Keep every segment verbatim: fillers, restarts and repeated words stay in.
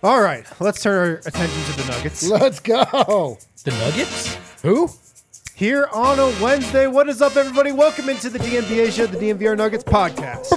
All right, let's turn our attention to the Nuggets. Let's go. The Nuggets? Who? Here on a Wednesday, what is up, everybody? Welcome into the D N V R show, the D N V R Nuggets podcast.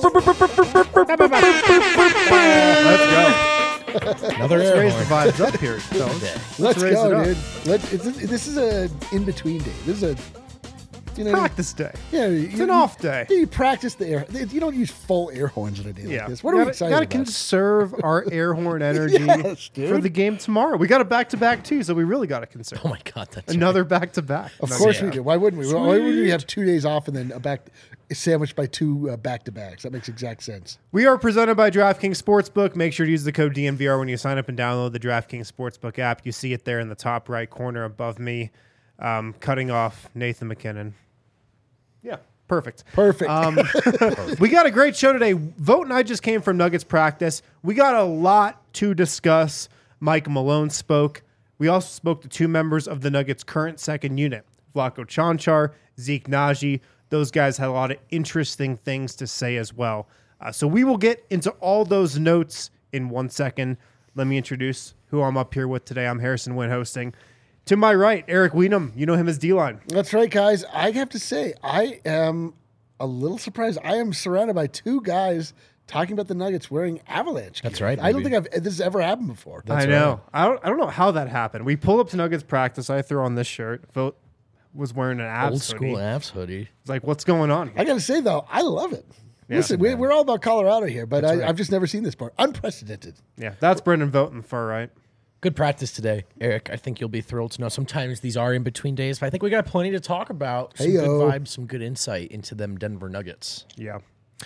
Let's go. Another Let's air raise horn. the vibes up here, fellas. Let's, Let's raise it go, up. dude. Let, it's, this is a in-between day. This is a, you know, Practice day. yeah, It's you, an off day. You, you practice the air. You don't use full air horns on a day Yeah. like this. What we are we gotta, excited gotta about? conserve our air horn energy Yes, dude. for the game tomorrow. We got a back-to-back, too, so we really got to conserve. Oh my God, that's Another back-to-back. Of No, course yeah. we do. Why wouldn't we? Why wouldn't we have two days off and then a back sandwiched by two uh, back-to-backs? That makes exact sense. We are presented by DraftKings Sportsbook. Make sure to use the code D N V R when you sign up and download the DraftKings Sportsbook app. You see it there in the top right corner above me, um, cutting off Nathan McKinnon. Yeah, perfect. Perfect. Um, we got a great show today. Vote and I just came from Nuggets practice. We got a lot to discuss. Mike Malone spoke. We also spoke to two members of the Nuggets' current second unit, Vlatko Čančar, Zeke Naji. Those guys had a lot of interesting things to say as well. Uh, so we will get into all those notes in one second. Let me introduce who I'm up here with today. I'm Harrison Wynn hosting. To my right, Eric Wienum. You know him as D-Line. That's right, guys. I have to say, I am a little surprised. I am surrounded by two guys talking about the Nuggets wearing Avalanche gear. That's right, I don't baby. think I've this has ever happened before. I know. I don't. I don't know how that happened. We pull up to Nuggets practice. I throw on this shirt. Phil was wearing an Avs old school hoodie. Avs hoodie. It's like, what's going on here? I got to say, though, I love it. Yeah. Listen, we, we're all about Colorado here, but I, right. I've just never seen this part. Unprecedented. Yeah, that's Brendan Vogt in the far right. Good practice today, Eric. I think you'll be thrilled to know. Sometimes these are in between days, but I think we got plenty to talk about. Some Heyo. good vibes, some good insight into them Denver Nuggets. Yeah.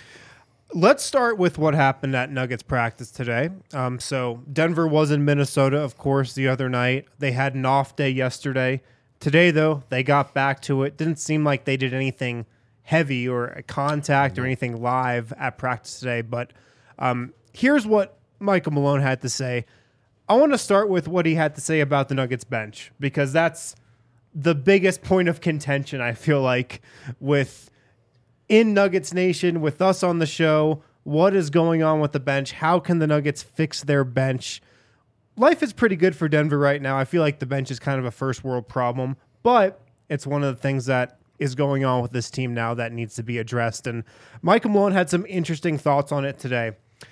Let's start with what happened at Nuggets practice today. Um, so Denver was in Minnesota, of course, the other night. They had an off day yesterday. Today, though, they got back to it. Didn't seem like they did anything heavy or a contact or anything live at practice today. But um, here's what Michael Malone had to say. I want to start with what he had to say about the Nuggets bench, because that's the biggest point of contention, I feel like, with in Nuggets Nation, with us on the show. What is going on with the bench? How can the Nuggets fix their bench? Life is pretty good for Denver right now. I feel like the bench is kind of a first world problem, but it's one of the things that is going on with this team now that needs to be addressed. And Michael Malone had some interesting thoughts on it today.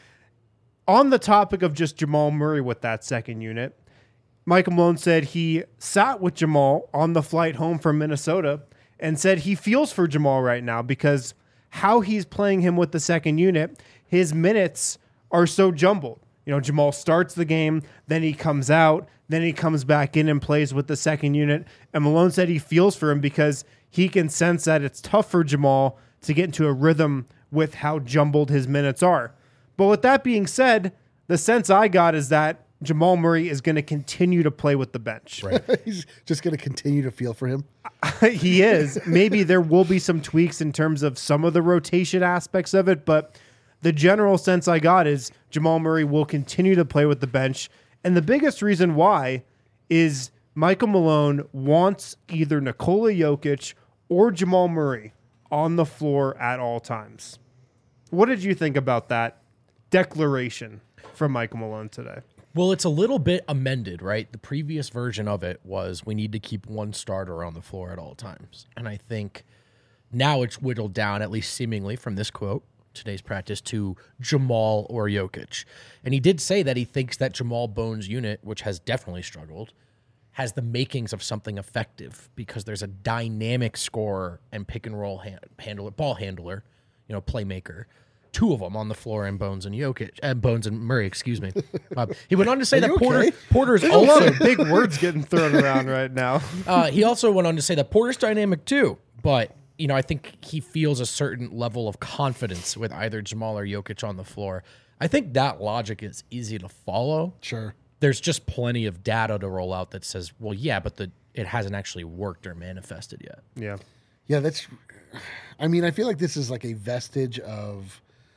On the topic of just Jamal Murray with that second unit, Michael Malone said he sat with Jamal on the flight home from Minnesota and said he feels for Jamal right now because how he's playing him with the second unit, his minutes are so jumbled. You know, Jamal starts the game, then he comes out, then he comes back in and plays with the second unit. And Malone said he feels for him because he can sense that it's tough for Jamal to get into a rhythm with how jumbled his minutes are. But with that being said, the sense I got is that Jamal Murray is going to continue to play with the bench. Right. He's just going to continue to feel for him. He is. Maybe there will be some tweaks in terms of some of the rotation aspects of it, but the general sense I got is Jamal Murray will continue to play with the bench. And the biggest reason why is Michael Malone wants either Nikola Jokic or Jamal Murray on the floor at all times. What did you think about that declaration from Michael Malone today? Well, it's a little bit amended, right? The previous version of it was we need to keep one starter on the floor at all times. And I think now it's whittled down, at least seemingly from this quote, today's practice, to Jamal or Jokic. And he did say that he thinks that Jamal Bones' unit, which has definitely struggled, has the makings of something effective because there's a dynamic scorer and pick and roll hand, handler, ball handler, you know, playmaker. Two of them on the floor, and Bones and Jokic, and Bones and Murray, excuse me. Uh, he went on to say Are that you Porter okay? Porter's A lot also of big words getting thrown around right now. uh, he also went on to say that Porter's dynamic too, but you know I think he feels a certain level of confidence with either Jamal or Jokic on the floor. I think that logic is easy to follow. Sure. There's just plenty of data to roll out that says, well, yeah, but the it hasn't actually worked or manifested yet. Yeah. Yeah, that's. I mean, I feel like this is like a vestige of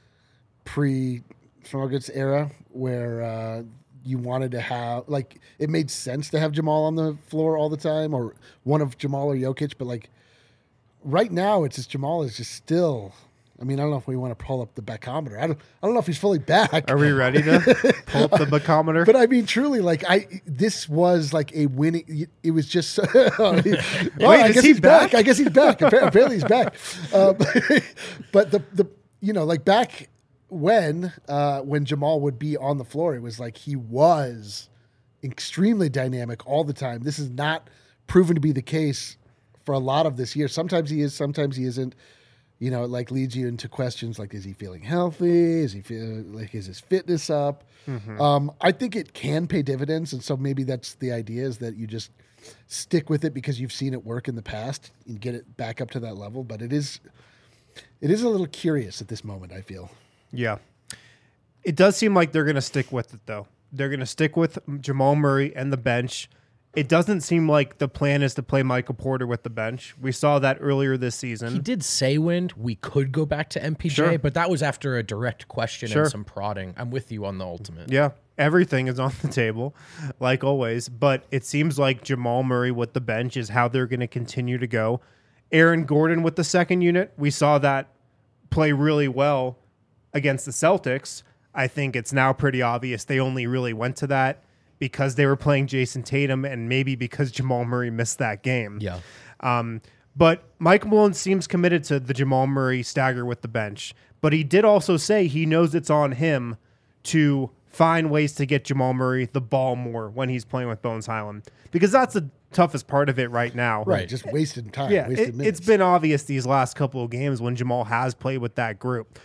pre-Nuggets era where uh, you wanted to have, like, it made sense to have Jamal on the floor all the time, or one of Jamal or Jokic, but like right now, it's just Jamal is just still I mean, I don't know if we want to pull up the backometer. I don't. I don't know if he's fully back. Are we ready to pull up the backometer? But I mean, truly, like I, this was like a winning. It was just. well, Wait, I is guess he he's back? back? I guess he's back. Appa- Apparently, he's back. Um, but the the you know like back when uh, when Jamal would be on the floor, it was like he was extremely dynamic all the time. This is not proven to be the case for a lot of this year. Sometimes he is, sometimes he isn't. You know, it like leads you into questions like, is he feeling healthy? Is he feeling like, is his fitness up? Mm-hmm. Um, I think it can pay dividends. And so maybe that's the idea, is that you just stick with it because you've seen it work in the past and get it back up to that level. But it is, it is a little curious at this moment, I feel. Yeah. It does seem like they're going to stick with it, though. They're going to stick with Jamal Murray and the bench. It doesn't seem like the plan is to play Michael Porter with the bench. We saw that earlier this season. He did say, Wind, we could go back to M P J, Sure. but that was after a direct question Sure. and some prodding. I'm with you on the ultimate. Yeah, everything is on the table, like always. But it seems like Jamal Murray with the bench is how they're going to continue to go. Aaron Gordon with the second unit, we saw that play really well against the Celtics. I think it's now pretty obvious they only really went to that because they were playing Jason Tatum and maybe because Jamal Murray missed that game. Yeah. Um, but Mike Malone seems committed to the Jamal Murray stagger with the bench. But he did also say he knows it's on him to find ways to get Jamal Murray the ball more when he's playing with Bones Highland, because that's the toughest part of it right now. Right. Just wasted time. Yeah, wasted it, minutes. it's been obvious these last couple of games when Jamal has played with that group.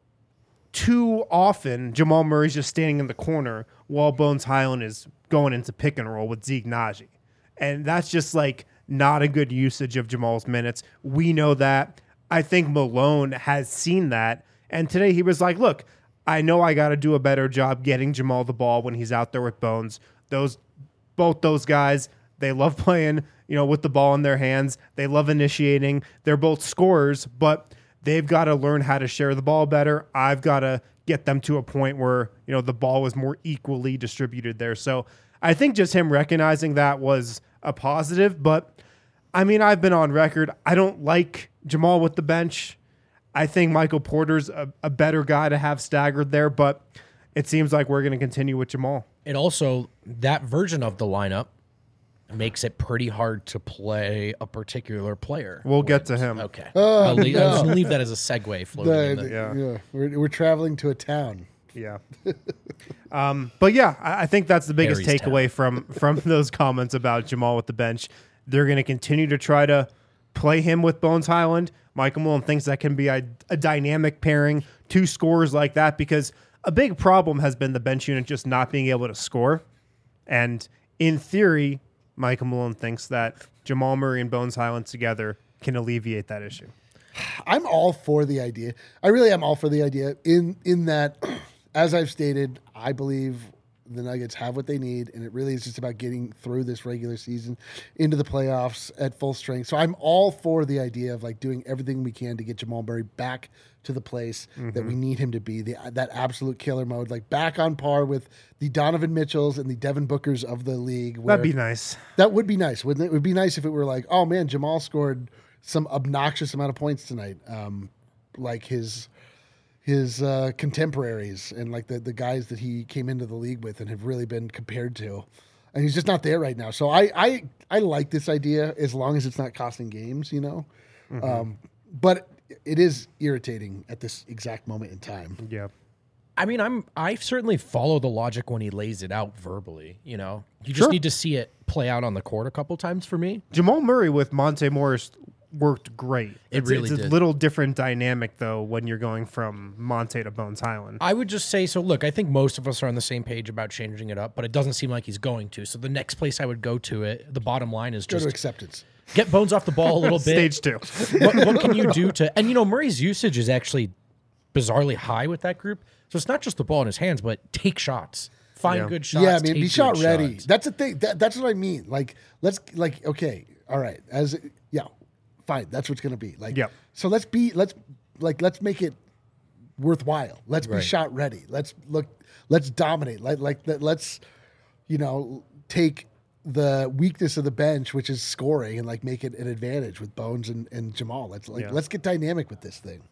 Too often, Jamal Murray's just standing in the corner while Bones Highland is going into pick and roll with Zeke Naji. And that's just like not a good usage of Jamal's minutes. We know that. I think Malone has seen that. And today he was like, look, I know I got to do a better job getting Jamal the ball when he's out there with Bones. Those, both those guys, they love playing, you know, with the ball in their hands. They love initiating. They're both scorers, but they've got to learn how to share the ball better. I've got to get them to a point where, you know, the ball was more equally distributed there. So I think just him recognizing that was a positive. But, I mean, I've been on record. I don't like Jamal with the bench. I think Michael Porter's a, a better guy to have staggered there, but it seems like we're going to continue with Jamal. It also, that version of the lineup makes it pretty hard to play a particular player. We'll get to him. Okay. Oh, I'll leave, I was no. gonna leave that as a segue floating The- in the- the, Yeah. yeah. We're, we're traveling to a town. Yeah. um, but yeah, I, I think that's the biggest Harry's takeaway from from those comments about Jamal with the bench. They're going to continue to try to play him with Bones Highland. Michael Malone thinks that can be a, a dynamic pairing, two scorers like that, because a big problem has been the bench unit just not being able to score. And in theory, Michael Malone thinks that Jamal Murray and Bones Highland together can alleviate that issue. I'm all for the idea. I really am all for the idea in in that, as I've stated, I believe the Nuggets have what they need, and it really is just about getting through this regular season into the playoffs at full strength. So I'm all for the idea of like doing everything we can to get Jamal Murray back to the place mm-hmm. that we need him to be, the, that absolute killer mode, like back on par with the Donovan Mitchells and the Devin Bookers of the league. That'd be nice. That would be nice, wouldn't it? It would be nice if it were like, oh man, Jamal scored some obnoxious amount of points tonight, um, like his his uh, contemporaries and like the, the guys that he came into the league with and have really been compared to. And he's just not there right now. So I I, I like this idea as long as it's not costing games, you know. Mm-hmm. Um, but it is irritating at this exact moment in time. Yeah. I mean, I'm I certainly follow the logic when he lays it out verbally. You know, you just Sure. need to see it play out on the court a couple times for me. Jamal Murray with Monte Morris worked great. It it's, really it's a did. little different dynamic though when you're going from Monte to Bones Highland. I would just say so. Look, I think most of us are on the same page about changing it up, but it doesn't seem like he's going to. So the next place I would go to it, the bottom line is Go just to acceptance. get Bones off the ball a little bit. Stage two. what, what can you do to? And you know, Murray's usage is actually bizarrely high with that group. So it's not just the ball in his hands, but take shots, find Yeah. good shots. Yeah, I mean, take be shot good ready. shots. That's the thing. That, that's what I mean. Like, let's like, okay, all right. As yeah, fine. That's what's gonna be. Like, Yep. So let's be let's like let's make it worthwhile. Let's be Right. shot ready. Let's look. Let's dominate. Like like let- let's you know take the weakness of the bench, which is scoring, and like make it an advantage with Bones and, and Jamal. Let's like Yeah. let's get dynamic with this thing.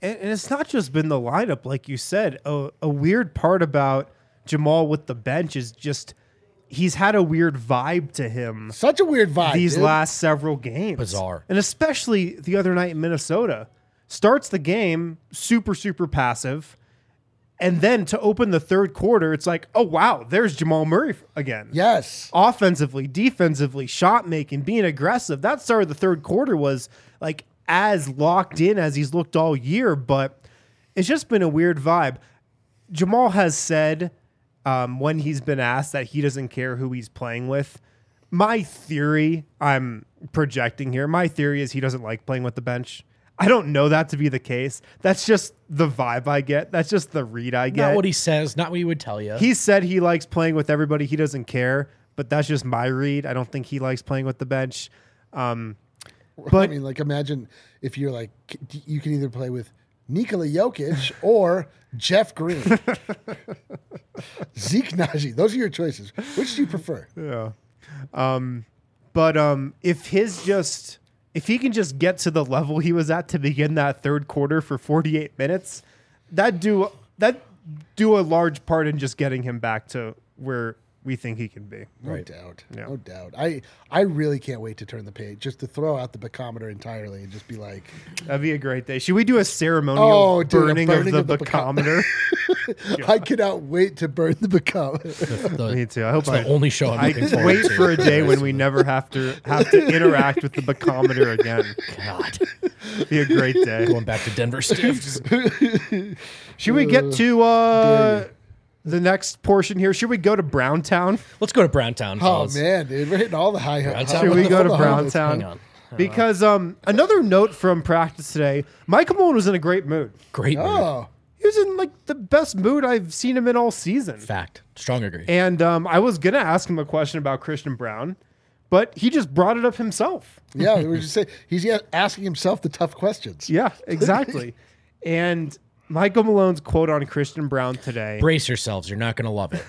and, and it's not just been the lineup, like you said. A, a weird part about Jamal with the bench is just he's had a weird vibe to him Such a weird vibe. these dude. last several games. Bizarre. And especially the other night in Minnesota. Starts the game super, super passive. And then to open the third quarter, it's like, oh, wow, there's Jamal Murray again. Yes. Offensively, defensively, shot making, being aggressive. That start of the third quarter was like as locked in as he's looked all year, but it's just been a weird vibe. Jamal has said um, when he's been asked that he doesn't care who he's playing with. My theory, I'm projecting here, my theory is he doesn't like playing with the bench. I don't know that to be the case. That's just the vibe I get. That's just the read I get. Not what he says, not what he would tell you. He said he likes playing with everybody. He doesn't care, but that's just my read. I don't think he likes playing with the bench. Um, but I mean, like, imagine if you're like, c- you can either play with Nikola Jokic or Jeff Green, Zeke Naji. Those are your choices. Which do you prefer? yeah. Um, but um, if his just if he can just get to the level he was at to begin that third quarter for forty-eight minutes, that do that do a large part in just getting him back to where we think he can be. No Right. doubt. Yeah. No doubt. I, I really can't wait to turn the page, just to throw out the bacometer entirely and just be like, That'd be a great day. Should we do a ceremonial Oh, dude, a burning, burning of of the, the bacometer? I cannot wait to burn the bacometer. The- Me too. I hope it's I the only show I'm I looking forward wait to. for a day when we never have to have to interact with the bacometer again. God, Be a great day. going back to Denver Stiffs. Should we get to uh, the next portion here? Should we go to Browntown? Let's go to Browntown. Oh, fellas. man, dude. We're hitting all the high Browntown. high- Should we go to all the highlights. Browntown? Hang on. Because um, another note from practice today, Michael Malone was in a great mood. Great move. Oh, He was in like the best mood I've seen him in all season. Fact. Strong agree. And um, I was gonna ask him a question about Christian Brown, but he just brought it up himself. yeah. We were just saying, he's yet asking himself the tough questions. Yeah, exactly. And Michael Malone's quote on Christian Brown today. Brace yourselves. You're not going to love it.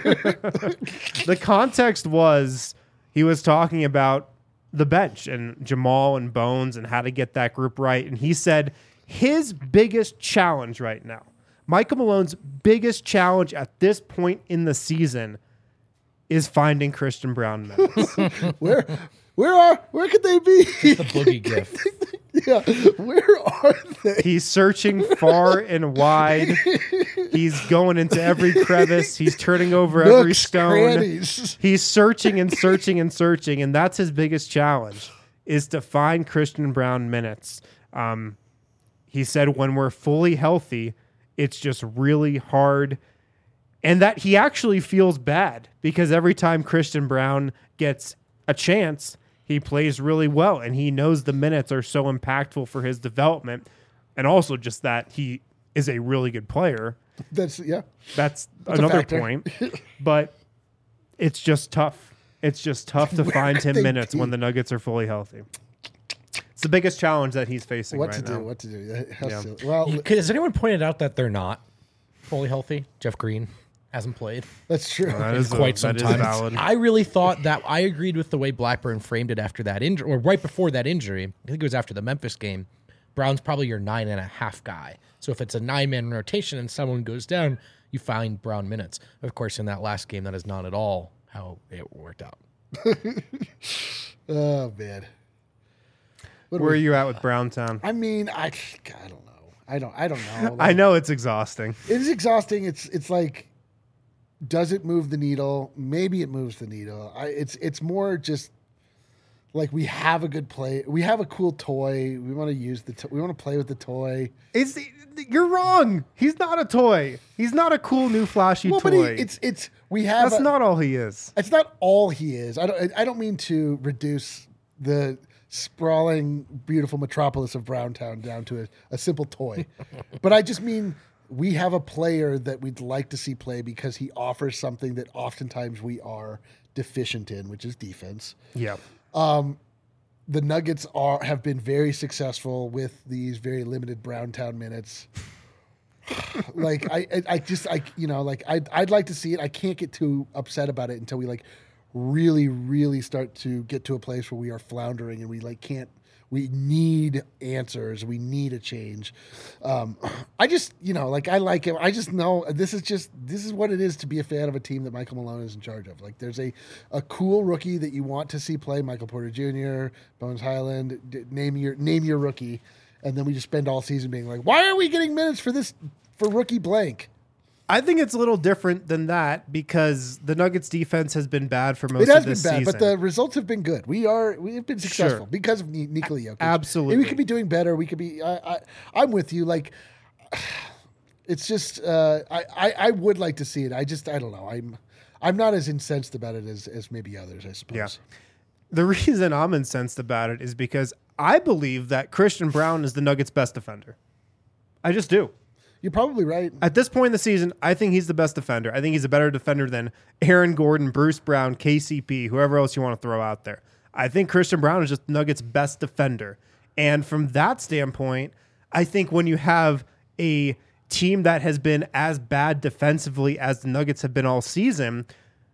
The context was he was talking about the bench and Jamal and Bones and how to get that group right. And he said his biggest challenge right now, Michael Malone's biggest challenge at this point in the season is finding Christian Brown minutes. Where, where are, where could they be? The boogie gift. yeah, where are they? He's searching far and wide. He's going into every crevice. He's turning over every Nooks, stone. crannies. He's searching and searching and searching, and that's his biggest challenge is to find Christian Brown minutes. Um, he said when we're fully healthy, it's just really hard, and that he actually feels bad because every time Christian Brown gets a chance, he plays really well, and he knows the minutes are so impactful for his development, and also just that he is a really good player. That's, yeah. That's, That's a another factor. point, but it's just tough. It's just tough to Where find could him they minutes be? when the Nuggets are fully healthy. It's the biggest challenge that he's facing What right to now. do? What to do? How Yeah. silly. Well, Has anyone pointed out that they're not fully healthy? Jeff Green hasn't played that's true. That is a- quite some that is time. valid. I really thought that I agreed with the way Blackburn framed it after that injury, or right before that injury. I think it was after the Memphis game. Brown's probably your nine and a half guy. So if it's a nine man rotation and someone goes down, you find Brown minutes. Of course, in that last game, that is not at all how it worked out. Oh man. What do Where we- are you at with Browntown? I mean, I, I don't know. I don't. I don't know. I know it's exhausting. It is exhausting. It's it's like, does it move the needle? Maybe it moves the needle. I, it's it's more just like we have a good play. We have a cool toy. We want to use the. To- we want to play with the toy. It's you're wrong. He's not a toy. He's not a cool new flashy Well, toy. but he, it's it's we have. That's a- not all he is. It's not all he is. I don't. I don't mean to reduce the sprawling, beautiful metropolis of Browntown down to a, a simple toy, but I just mean we have a player that we'd like to see play because he offers something that oftentimes we are deficient in, which is defense. Yeah. The Nuggets are have been very successful with these very limited Browntown minutes. like I, I, I just I you know like I'd I'd like to see it. I can't get too upset about it until we like really really start to get to a place where we are floundering and we like can't We need answers. We need a change. Um, I just, you know, like I like him. I just know this is just this is what it is to be a fan of a team that Michael Malone is in charge of. Like, there's a a cool rookie that you want to see play, Michael Porter Junior, Bones Highland. D- name your name your rookie, and then we just spend all season being like, why are we getting minutes for this for rookie blank? I think it's a little different than that because the Nuggets defense has been bad for most It has of this been bad, season. but the results have been good. We are we have been successful Sure. because of Ni- Nikola Jokic. Absolutely. And we could be doing better. We could be. I, I, I'm with you. Like, it's just uh, I, I I would like to see it. I just I don't know. I'm I'm not as incensed about it as as maybe others. I suppose. Yeah. The reason I'm incensed about it is because I believe that Christian Brown is the Nuggets' best defender. I just do. You're probably right. At this point in the season, I think he's the best defender. I think he's a better defender than Aaron Gordon, Bruce Brown, K C P, whoever else you want to throw out there. I think Christian Brown is just Nuggets' best defender. And from that standpoint, I think when you have a team that has been as bad defensively as the Nuggets have been all season,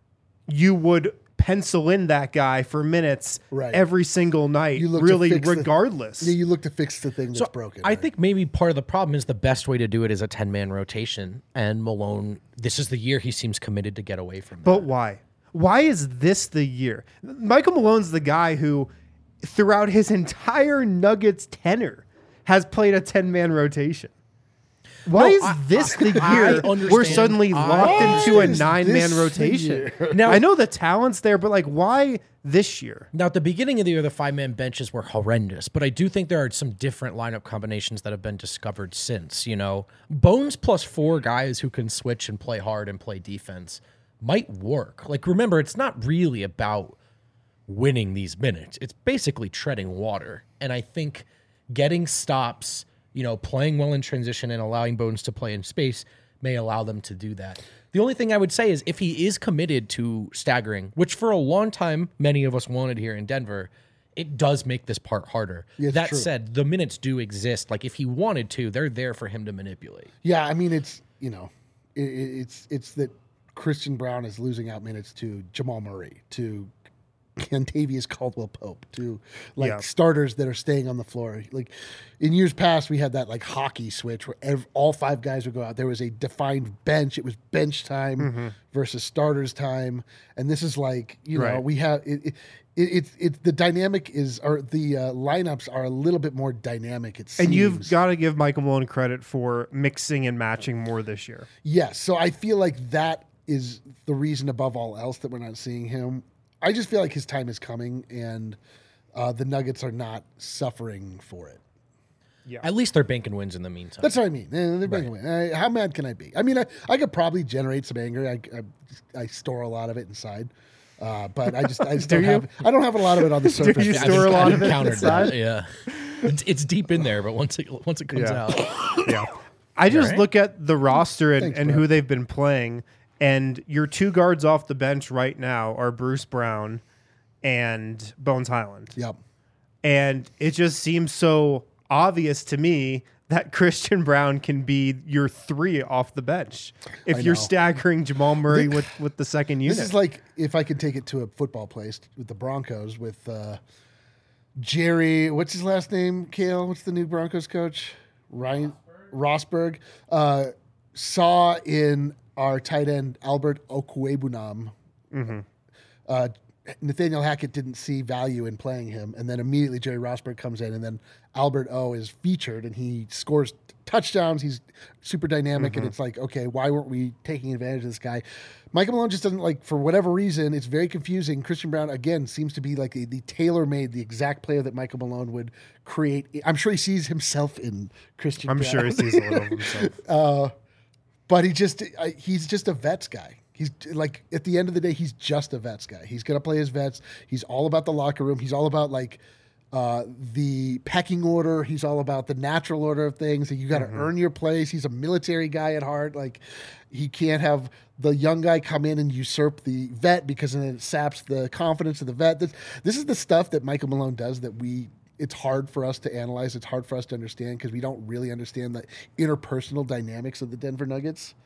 you would pencil in that guy for minutes Right. every single night, You look to really fix the- regardless. Yeah, you look to fix the thing that's So broken. I right? think maybe part of the problem is the best way to do it is a ten-man rotation. And Malone, this is the year he seems committed to get away from that. But why? Why is this the year? Michael Malone's the guy who, throughout his entire Nuggets tenure, has played a ten-man rotation. Why No, is I- this the I year understand. we're suddenly I- locked Why into a is nine-man this the rotation? year? Now- I know the talent's there, but like, why this year? Now, at the beginning of the year, the five-man benches were horrendous, but I do think there are some different lineup combinations that have been discovered since. You know, Bones plus four guys who can switch and play hard and play defense might work. Like, remember, it's not really about winning these minutes. It's basically treading water. And I think getting stops, you know, playing well in transition and allowing Bones to play in space may allow them to do that. The only thing I would say is if he is committed to staggering, which for a long time many of us wanted here in Denver, it does make this part harder. Yeah, it's that true. said, the minutes do exist. Like if he wanted to, they're there for him to manipulate. Yeah, I mean, it's, you know, it, it's it's that Christian Brown is losing out minutes to Jamal Murray, to Kentavious Caldwell-Pope, to like Yeah. starters that are staying on the floor. Like in years past, we had that like hockey switch where ev- all five guys would go out. There was a defined bench. It was bench time Mm-hmm. versus starters time, and this is like you know Right. we have it. it it, it, it the dynamic is or the uh, lineups are a little bit more dynamic. It seems. And you've got to give Michael Malone credit for mixing and matching more this year. Yes. So I feel like that is the reason above all else that we're not seeing him. I just feel like his time is coming, and uh, the Nuggets are not suffering for it. At least they're banking wins in the meantime. That's what I mean. Eh, They're bringing away. Uh, how mad can I be? I mean, I, I could probably generate some anger. I, I, I store a lot of it inside, uh, but I just I just Do don't you? have. I don't have a lot of it on the surface. you I've store a lot I've of it encountered inside? that. Yeah, it's, it's deep in there, but once it once it comes Yeah. out, Yeah. I just right? look at the roster and, Thanks, and bro. who they've been playing, and your two guards off the bench right now are Bruce Brown and Bones Highland. Yep. And it just seems so obvious to me that Christian Brown can be your three off the bench if I you're know. staggering Jamal Murray with, with the second unit. This is like if I could take it to a football place with the Broncos with uh, Jerry. What's his last name? Kale. What's the new Broncos coach? Ryan Rosberg. Uh, saw in our tight end Albert Okwuegbunam. Uh, Nathaniel Hackett didn't see value in playing him, and then immediately Jerry Rosberg comes in, and then Albert O is featured, and he scores touchdowns. He's super dynamic, and it's like, okay, why weren't we taking advantage of this guy? Michael Malone just doesn't like, for whatever reason, it's very confusing. Christian Brown, again, seems to be like the, the tailor-made, the exact player that Michael Malone would create. I'm sure he sees himself in Christian I'm Brown. sure he sees a little of himself. But he just I, he's just a vets guy. He's like at the end of the day, he's just a vets guy. He's gonna play his vets. He's all about the locker room. He's all about like uh, the pecking order. He's all about the natural order of things. You got to earn your place. He's a military guy at heart. Like he can't have the young guy come in and usurp the vet because then it saps the confidence of the vet. This, this is the stuff that Michael Malone does that we. It's hard for us to analyze. It's hard for us to understand because we don't really understand the interpersonal dynamics of the Denver Nuggets.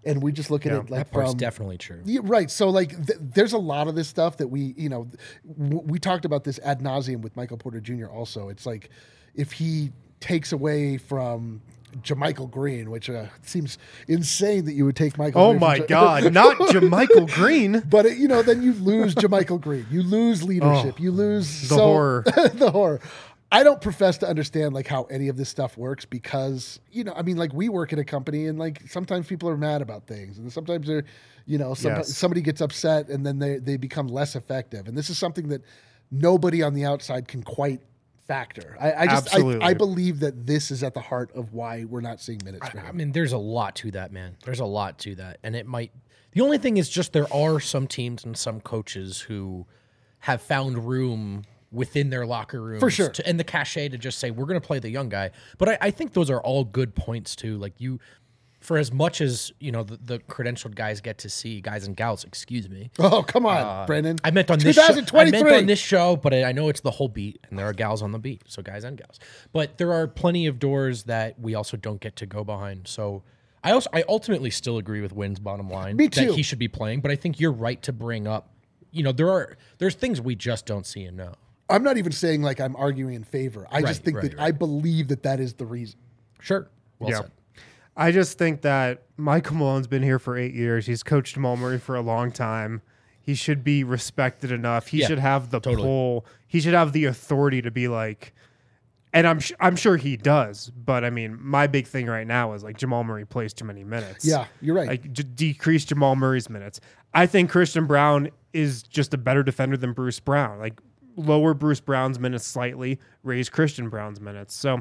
and we just look at Yeah, it like That part's from definitely true. yeah, right. So like, th- there's a lot of this stuff that we, you know, w- we talked about this ad nauseum with Michael Porter Junior Also, it's like if he takes away from Jermichael Green, which uh, seems insane that you would take Michael. Oh Green from my Ja- God, not Jermichael Green. But it, you know, then you lose Jermichael Green. You lose leadership. Oh, you lose the so- horror. the horror. I don't profess to understand like how any of this stuff works because you know, I mean, like we work at a company and like sometimes people are mad about things and sometimes they're, you know, some, Yes. somebody gets upset and then they they become less effective. And this is something that nobody on the outside can quite factor. I, I just I, Absolutely. I believe that this is at the heart of why we're not seeing minutes for I him. mean, there's a lot to that, man. There's a lot to that. And it might, the only thing is just there are some teams and some coaches who have found room within their locker rooms For sure. to, and the cachet to just say, we're going to play the young guy. But I, I think those are all good points too. Like you, for as much as, you know, the, the credentialed guys get to see, guys and gals, excuse me. Oh, come on, Brendan. I meant on this show. I meant twenty twenty-three. on this show, but I I know it's the whole beat, and there are gals on the beat, so guys and gals. But there are plenty of doors that we also don't get to go behind. So I also I ultimately still agree with Wynn's bottom line Me too. that he should be playing, but I think you're right to bring up. You know, there are there's things we just don't see and know. I'm not even saying like I'm arguing in favor. I Right, just think right, that right. I believe that that is the reason. Sure, well Yeah. said. I just think that Michael Malone's been here for eight years. He's coached Jamal Murray for a long time. He should be respected enough. He Yeah, should have the totally. pull. He should have the authority to be like, and I'm sh- I'm sure he does. But I mean, my big thing right now is like Jamal Murray plays too many minutes. Yeah, you're right. Like j- decrease Jamal Murray's minutes. I think Christian Brown is just a better defender than Bruce Brown. Like lower Bruce Brown's minutes slightly, raise Christian Brown's minutes. So.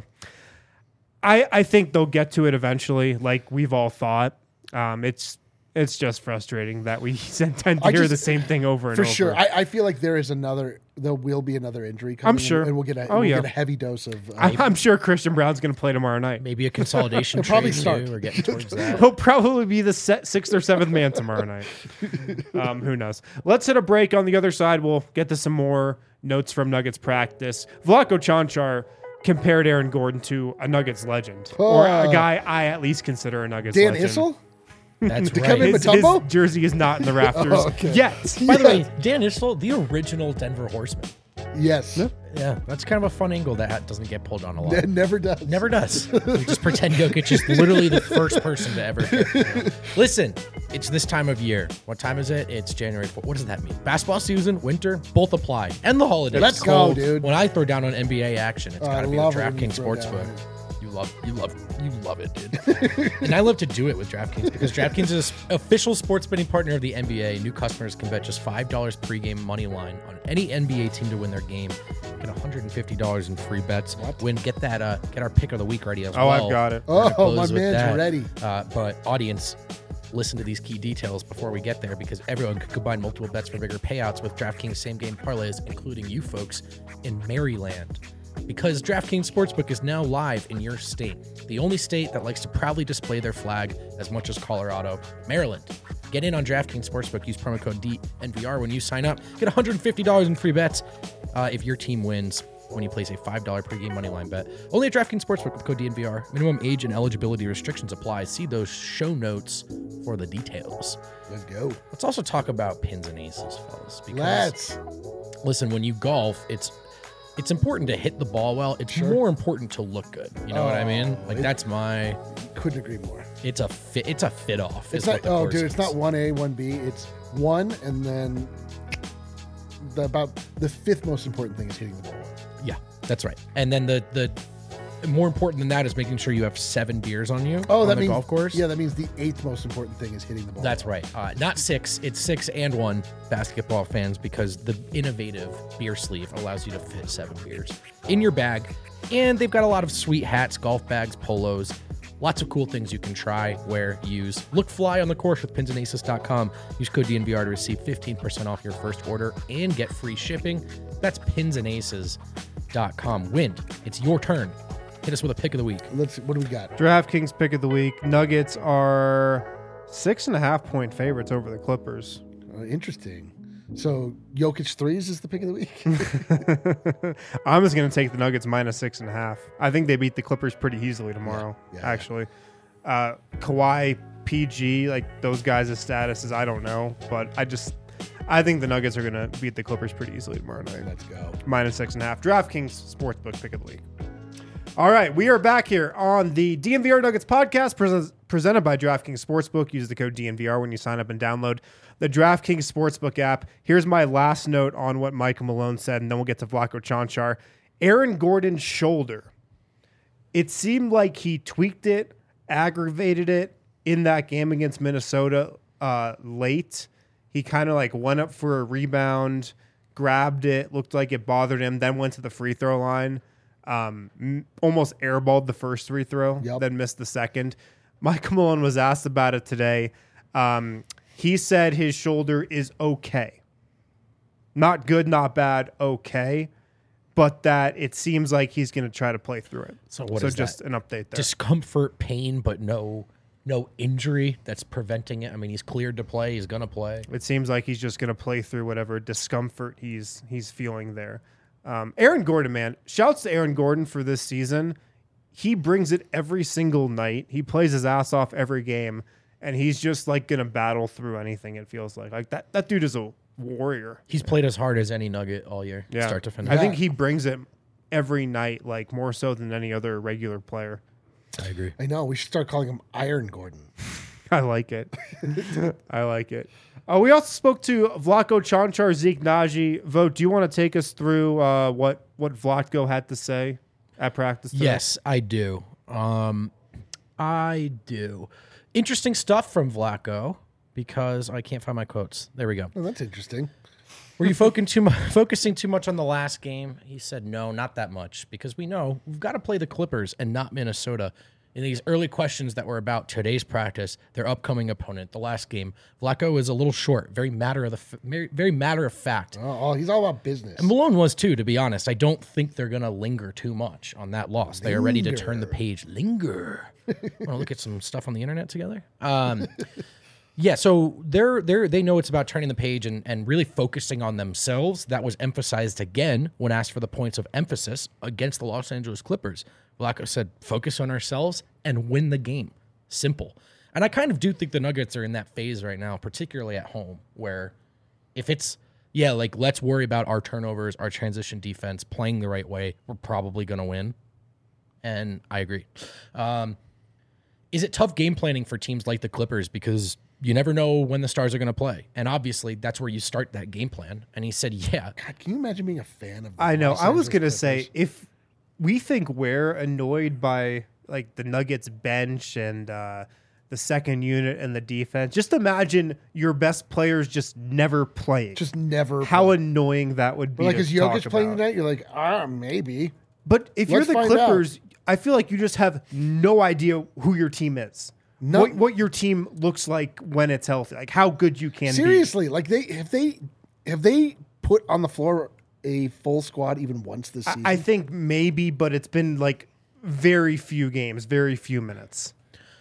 I, I think they'll get to it eventually, like we've all thought. Um, it's it's just frustrating that we tend to I hear just- the same thing over and For over. sure. I, I feel like there is another, there will be another injury coming. I'm sure. And, and we'll get a, Oh, we'll yeah. get a heavy dose of. Uh, I, I'm sure Christian Brown's going to play tomorrow night. Maybe a consolidation He'll probably trade start. too. We're getting towards that. He'll probably be the se- sixth or seventh man tomorrow night. Um, who knows? Let's hit a break. On the other side, we'll get to some more notes from Nuggets practice. Vlatko Čančar compared Aaron Gordon to a Nuggets legend, or a Oh. guy I at least consider a Nuggets Dan legend. Issel? That's To right. come in His, with his Mutombo? jersey is not in the rafters Oh, okay. yet. By the way, Dan Issel, the original Denver Horseman. Yes. Yeah, that's kind of a fun angle that ha- doesn't get pulled on a lot. It never does. Never does. You just pretend Jokic is literally the first person to ever hit. You know? Listen, it's this time of year. What time is it? It's January fourth. What does that mean? Basketball season, winter, both apply. And the holidays. Let's go, Cold. dude. When I throw down on N B A action, it's Oh, got I to be love the it when you DraftKings throw down Sportsbook. on it. You love, you love, you love it, dude. And I love to do it with DraftKings because DraftKings is an official sports betting partner of the N B A. New customers can bet just five dollars pregame money line on any N B A team to win their game. Get one hundred fifty dollars in free bets. Win, get that, uh, get our pick of the week ready as Oh, well. I've got it. We're gonna Oh, my close with man's that. ready. Uh, but audience, listen to these key details before we get there because everyone could combine multiple bets for bigger payouts with DraftKings same game parlays, including you folks in Maryland. Because DraftKings Sportsbook is now live in your state, the only state that likes to proudly display their flag as much as Colorado, Maryland. Get in on DraftKings Sportsbook. Use promo code D N V R when you sign up. Get one hundred fifty dollars in free bets uh, if your team wins when you place a five dollars pregame moneyline bet. Only at DraftKings Sportsbook with code D N V R. Minimum age and eligibility restrictions apply. See those show notes for the details. Let's go. Let's also talk about pins and aces, fellas. Because Let's. listen, when you golf, it's it's important to hit the ball well. It's more important to look good. You know what I mean? Like it- that's my. Couldn't agree more. It's a fit. It's a fit off. It's is not, what the oh, course dude, it's is. not one A, one B. It's one, and then the, about the fifth most important thing is hitting the ball well. Yeah, that's right. And then the the more important than that is making sure you have seven beers on you. Oh, on that the means golf course. Yeah, that means the eighth most important thing is hitting the ball. That's right. Uh, not six. It's six and one, basketball fans, because the innovative beer sleeve allows you to fit seven beers in your bag. And they've got a lot of sweet hats, golf bags, polos, lots of cool things you can try, wear, use. Look fly on the course with pins and aces dot com. Use code D N V R to receive fifteen percent off your first order and get free shipping. That's pins and aces dot com. Wind, it's your turn. Hit us with a pick of the week. Let's. What do we got? DraftKings pick of the week. Nuggets are six and a half point favorites over the Clippers. Uh, interesting. So Jokic threes is the pick of the week. I'm just going to take the Nuggets minus six and a half. I think they beat the Clippers pretty easily tomorrow, Yeah, yeah, actually. Uh, Kawhi P G, like those guys' statuses, I don't know. But I just, I think the Nuggets are going to beat the Clippers pretty easily tomorrow night. Let's go. Minus six and a half. DraftKings Sportsbook pick of the week. All right, we are back here on the D N V R Nuggets podcast pres- presented by DraftKings Sportsbook. Use the code D N V R when you sign up and download the DraftKings Sportsbook app. Here's my last note on what Michael Malone said, and then we'll get to Vlatko Čančar. Aaron Gordon's shoulder. It seemed like he tweaked it, aggravated it in that game against Minnesota uh, late. He kind of like went up for a rebound, grabbed it, looked like it bothered him, then went to the free throw line. Um, m- almost airballed the first free throw, Yep. then missed the second. Michael Malone was asked about it today. Um, he said his shoulder is okay. Not good, not bad, okay. But that it seems like he's going to try to play through it. So what so is just that? an update there. Discomfort, pain, but no no injury that's preventing it. I mean, he's cleared to play. He's gonna play. It seems like he's just going to play through whatever discomfort he's he's feeling there. Um, Aaron Gordon, man, shouts to Aaron Gordon for this season. He brings it every single night. He plays his ass off every game, and he's just like going to battle through anything. It feels like like that. That dude is a warrior. He's played as hard as any Nugget all year, Yeah, start to finish. I think he brings it every night, like more so than any other regular player. I agree. I know. We should start calling him Iron Gordon. I like it. I like it. Uh, we also spoke to Vlatko Čančar, Zeke Naji. Vote, do you want to take us through uh, what, what Vlatko had to say at practice today? Yes, I do. Um, I do. Interesting stuff from Vlatko because I can't find my quotes. There we go. Oh, that's interesting. Were you focusing too much, focusing too much on the last game? He said, no, not that much, because we know we've got to play the Clippers and not Minnesota. In these early questions that were about today's practice, their upcoming opponent, the last game, Vlatko is a little short, very matter of the f- very, very matter of fact. Oh, oh, he's all about business. And Malone was too, to be honest. I don't think they're gonna linger too much on that loss. They are ready to Linger. turn the page. Linger. Want to look at some stuff on the internet together? Um, yeah. So they're they're they know it's about turning the page and and really focusing on themselves. That was emphasized again when asked for the points of emphasis against the Los Angeles Clippers. Vlatko said, "Focus on ourselves and win the game. Simple." And I kind of do think the Nuggets are in that phase right now, particularly at home, where if it's, yeah, like let's worry about our turnovers, our transition defense, playing the right way, we're probably going to win. And I agree. Um, is it tough game planning for teams like the Clippers? Because you never know when the stars are going to play. And obviously, that's where you start that game plan. And he said, yeah. God, can you imagine being a fan of the I know. Los I was Angeles going to Clippers? say, if we think we're annoyed by like the Nuggets bench and uh, the second unit and the defense, just imagine your best players just never playing. just never. How play. annoying that would be. But like, to is Jokic talk playing about. tonight? You're like, ah, maybe. But if Let's you're the find Clippers, I feel like you just have no idea who your team is. No- What, what your team looks like when it's healthy, like how good you can Seriously, like they have they have they put on the floor a full squad even once this be. season? I, I think maybe, but it's been like very few games, very few minutes.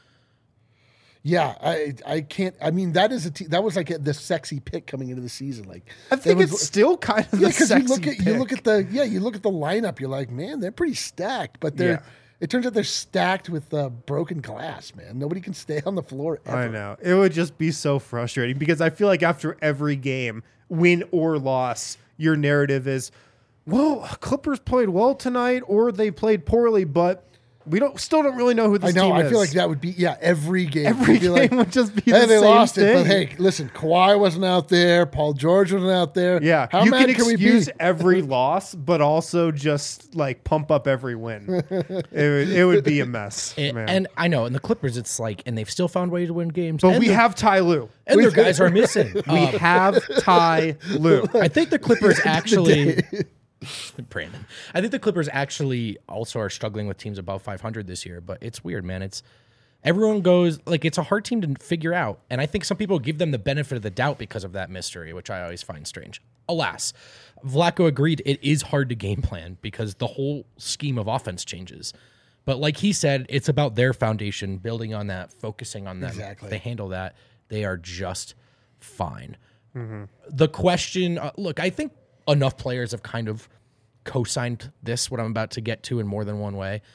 Yeah, I I can't. I mean, that is a te- that was like a, the sexy pick coming into the season. Like I think it was- it's still kind of yeah, the because sexy you look at you pick. look at the yeah you look at the lineup. You're like, man, they're pretty stacked, but they're. Yeah. It turns out they're stacked with uh, broken glass, man. Nobody can stay on the floor ever. I know. It would just be so frustrating because I feel like after every game, win or loss, your narrative is, well, Clippers played well tonight or they played poorly, but we don't still don't really know who this I know. team I is. feel like that would be yeah. Every game, Every would be game like, would just be hey, the they same lost thing. it, but hey, listen, Kawhi wasn't out there. Paul George wasn't out there. Yeah, how you mad can can we be? excuse every loss, but also just like pump up every win. it, would, it would be a mess, And, man. and I know, and the Clippers, it's like, and they've still found ways to win games. but and we their- have Ty Lue. and their guys are missing. We Um, have Ty Lue. I think the Clippers actually. Brandon, I think the Clippers actually also are struggling with teams above five hundred this year. But it's weird, man. It's everyone goes like it's a hard team to figure out, and I think some people give them the benefit of the doubt because of that mystery, which I always find strange. Alas, Vlatko agreed it is hard to game plan because the whole scheme of offense changes. But like he said, it's about their foundation, building on that, focusing on them. Exactly. If they handle that, they are just fine. The question, uh, look, I think enough players have kind of co-signed this, what I'm about to get to in more than one way,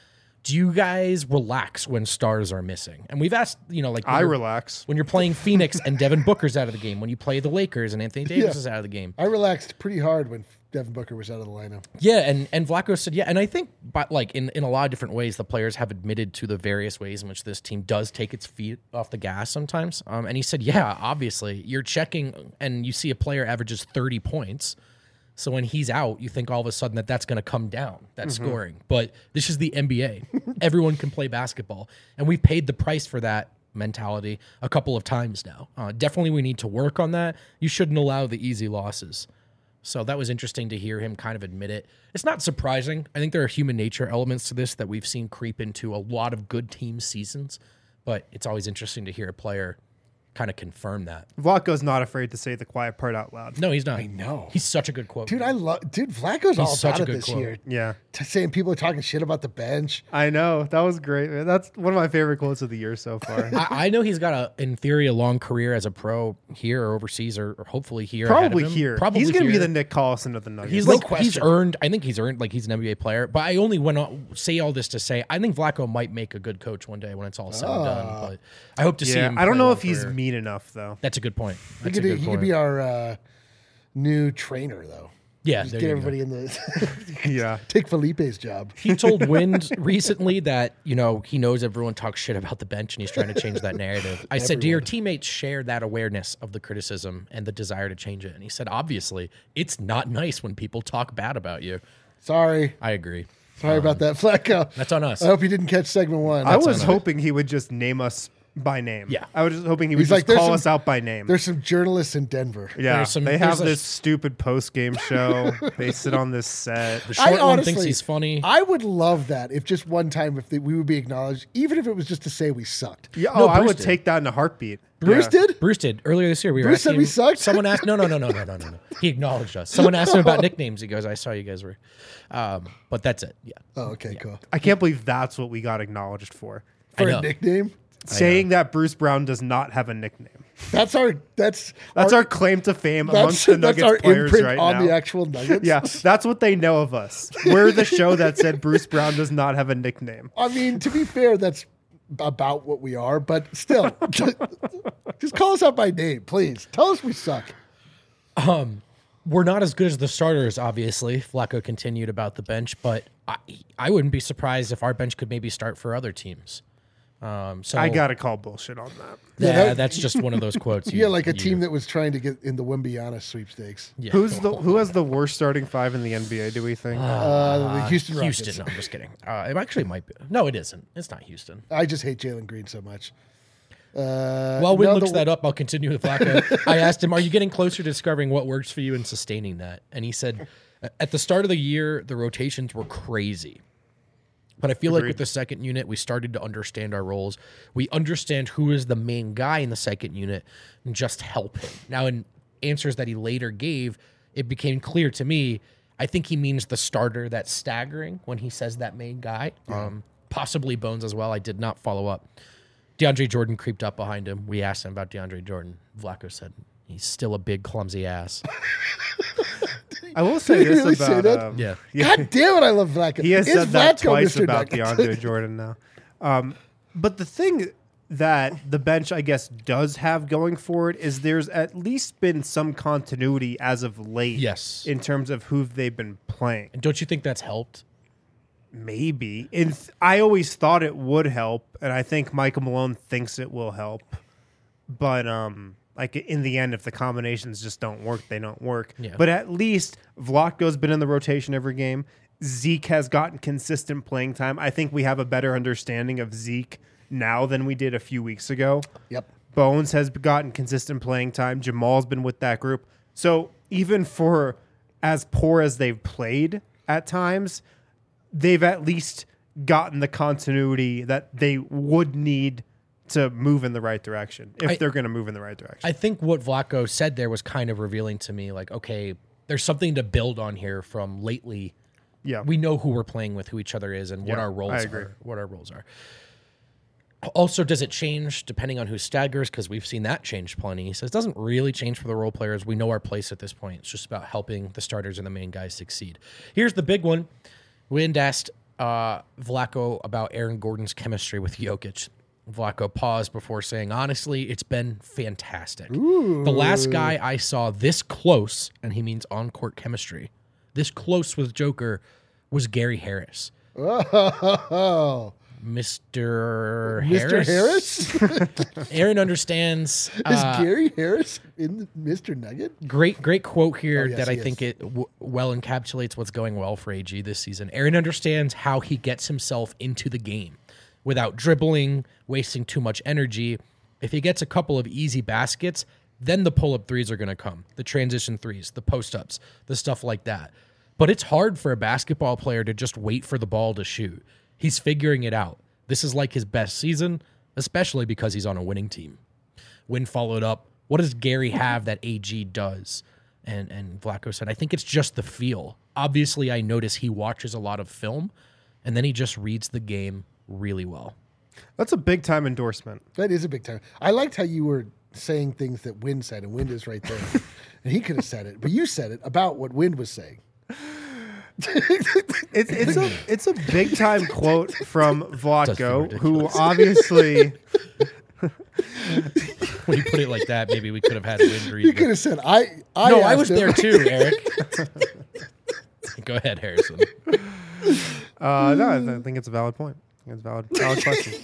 do you guys relax when stars are missing? And we've asked, you know, like when I you're- relax. when you're playing Phoenix and Devin Booker's out of the game, when you play the Lakers and Anthony Davis Yeah. is out of the game. I relaxed pretty hard when Devin Booker was out of the lineup. Yeah, and, and Vlaco said, yeah, and I think, but like in, in a lot of different ways, the players have admitted to the various ways in which this team does take its feet off the gas sometimes. Um, and he said, yeah, obviously, you're checking and you see a player averages thirty points. So when he's out, you think all of a sudden that that's going to come down, that Mm-hmm. scoring. But this is the N B A. Everyone can play basketball. And we've paid the price for that mentality a couple of times now. Uh, definitely we need to work on that. You shouldn't allow the easy losses. So that was interesting to hear him kind of admit it. It's not surprising. I think there are human nature elements to this that we've seen creep into a lot of good team seasons. But it's always interesting to hear a player kind of confirm that. Vlaco's not afraid to say the quiet part out loud. No, he's not. I know. He's such a good quote. Dude, I love. Dude, Flacco's all such about a it good this quote. year. Yeah. T- saying people are talking shit about the bench. I know. That was great, man. That's one of my favorite quotes of the year so far. I, I know he's got a, in theory, a long career as a pro here or overseas, or, or hopefully here. ahead of Probably him. here. Probably he's going to be here. the Nick Collison of the Nuggets. He's No like he's question. earned. I think he's earned like he's an N B A player. But I only went on say all this to say I think Vlaco might make a good coach one day when it's all said and done. But I hope to see yeah, him. I don't play know a if long he's career. mean enough, though. That's a good point. He That's could, a he good could point. be our uh, new trainer, though. yeah, Just there get you go. everybody in the Yeah. take Felipe's job. He told Wind recently that, you know, he knows everyone talks shit about the bench and he's trying to change that narrative. I said, do your teammates share that awareness of the criticism and the desire to change it? And he said, obviously, it's not nice when people talk bad about you. Sorry, I agree. sorry about that, Flacco. That's on us. I hope you didn't catch segment one. I was on hoping he would just name us by name. Yeah. I was just hoping he would He's just like, there's call some- us out by name. There's some journalists in Denver. Yeah, there's some- they have there's a- this stupid post game show. They sit on this set. The short I one honestly, thinks he's funny. I would love that if just one time if they, we would be acknowledged, even if it was just to say we sucked. Yeah, No, oh, I Bruce would did. take that in a heartbeat. Bruce Yeah. did. Bruce did earlier this year. We were Bruce said asking we him- sucked? Someone asked, no, no, no, no, no, no, no, no. He acknowledged us. Someone asked him about nicknames. He goes, I saw you guys were, um, but that's it. Yeah. Oh, okay, cool. I can't believe that's what we got acknowledged for. I For know. a nickname, Saying that Bruce Brown does not have a nickname. that's our that's That's our claim to fame that's, amongst the that's Nuggets our players imprint right on now. the actual Nuggets. Yeah, that's what they know of us. We're the show that said Bruce Brown does not have a nickname. I mean, to be fair, that's about what we are, but still, just call us out by name, please. Tell us we suck. We're not as good as the starters, obviously. Flacco continued about the bench, but I, I wouldn't be surprised if our bench could maybe start for other teams. Um, so I gotta call bullshit on that. yeah, Yeah, that- that's just one of those quotes. Yeah, like a team that was trying to get in the Wimbiana sweepstakes. Yeah. Who's the who has the worst starting five in the N B A? Do we think? Uh, the Houston Rockets. Houston. No, I'm just kidding. Uh, it actually might be. No, it isn't. It's not Houston. I just hate Jalen Green so much. Uh, While Win no, looks the- that up, I'll continue with Flacco. I asked him, are you getting closer to discovering what works for you and sustaining that? And he said, at the start of the year, the rotations were crazy. But I feel like Agreed. with the second unit, we started to understand our roles. We understand who is the main guy in the second unit and just help him. Now, in answers that he later gave, it became clear to me, I think he means the starter that's staggering when he says that main guy. Um, possibly Bones as well. I did not follow up. DeAndre Jordan creeped up behind him. We asked him about DeAndre Jordan. Vlaco said, he's still a big, clumsy ass. I will say Did he this really say about that? um, Yeah. God damn it, I love Vlaco. He has Is said that Vlatko twice Mister about Nuggets? DeAndre Jordan now. Um, but the thing that the bench, I guess, does have going for it is there's at least been some continuity as of late. Yes. In terms of who they've been playing. And don't you think that's helped? Maybe. And th- I always thought it would help, and I think Michael Malone thinks it will help. But um, like in the end, if the combinations just don't work, they don't work. Yeah. But at least Vlatko's been in the rotation every game. Zeke has gotten consistent playing time. I think we have a better understanding of Zeke now than we did a few weeks ago. Yep. Bones has gotten consistent playing time. Jamal's been with that group. So even for as poor as they've played at times, they've at least gotten the continuity that they would need to move in the right direction if I- they're going to move in the right direction. I think what Vlaco said there was kind of revealing to me, like, okay, there's something to build on here from lately. yeah. We know who we're playing with, who each other is, and what Yeah, our I roles agree. are. What our roles are. Also, does it change depending on who staggers? Because we've seen that change plenty. He says it doesn't really change for the role players. We know our place at this point. It's just about helping the starters and the main guys succeed. Here's the big one. Wind asked uh, Vlatko about Aaron Gordon's chemistry with Jokic. Vlatko paused before saying, honestly, it's been fantastic. Ooh. The last guy I saw this close, and he means on-court chemistry, this close with Joker was Gary Harris. Oh, Mister Mister Harris? Harris? Aaron understands. Is uh, Gary Harris in the Mister Nugget? Great, great quote here Oh, yes, that I he think is. it w- well encapsulates what's going well for A G this season. Aaron understands how he gets himself into the game without dribbling, wasting too much energy. If he gets a couple of easy baskets, then the pull-up threes are going to come, the transition threes, the post-ups, the stuff like that. But it's hard for a basketball player to just wait for the ball to shoot. He's figuring it out. This is like his best season, especially because he's on a winning team. Win followed up, what does Gary have that A G does? And and Vlatko said, I think it's just the feel. Obviously, I notice he watches a lot of film, and then he just reads the game really well. That's a big time endorsement. That is a big time. I liked how you were saying things that Wind said, and Wind is right there. And he could have said it, but you said it about what Wind was saying. It's it's a it's a big time quote from Vlatko, That's who ridiculous. obviously When you put it like that, maybe we could have had Wind read. You but- could have said, I, I no, I asked was him- there too, Eric. Go ahead, Harrison. uh, no, I th- I think it's a valid point. I think it's a valid valid question.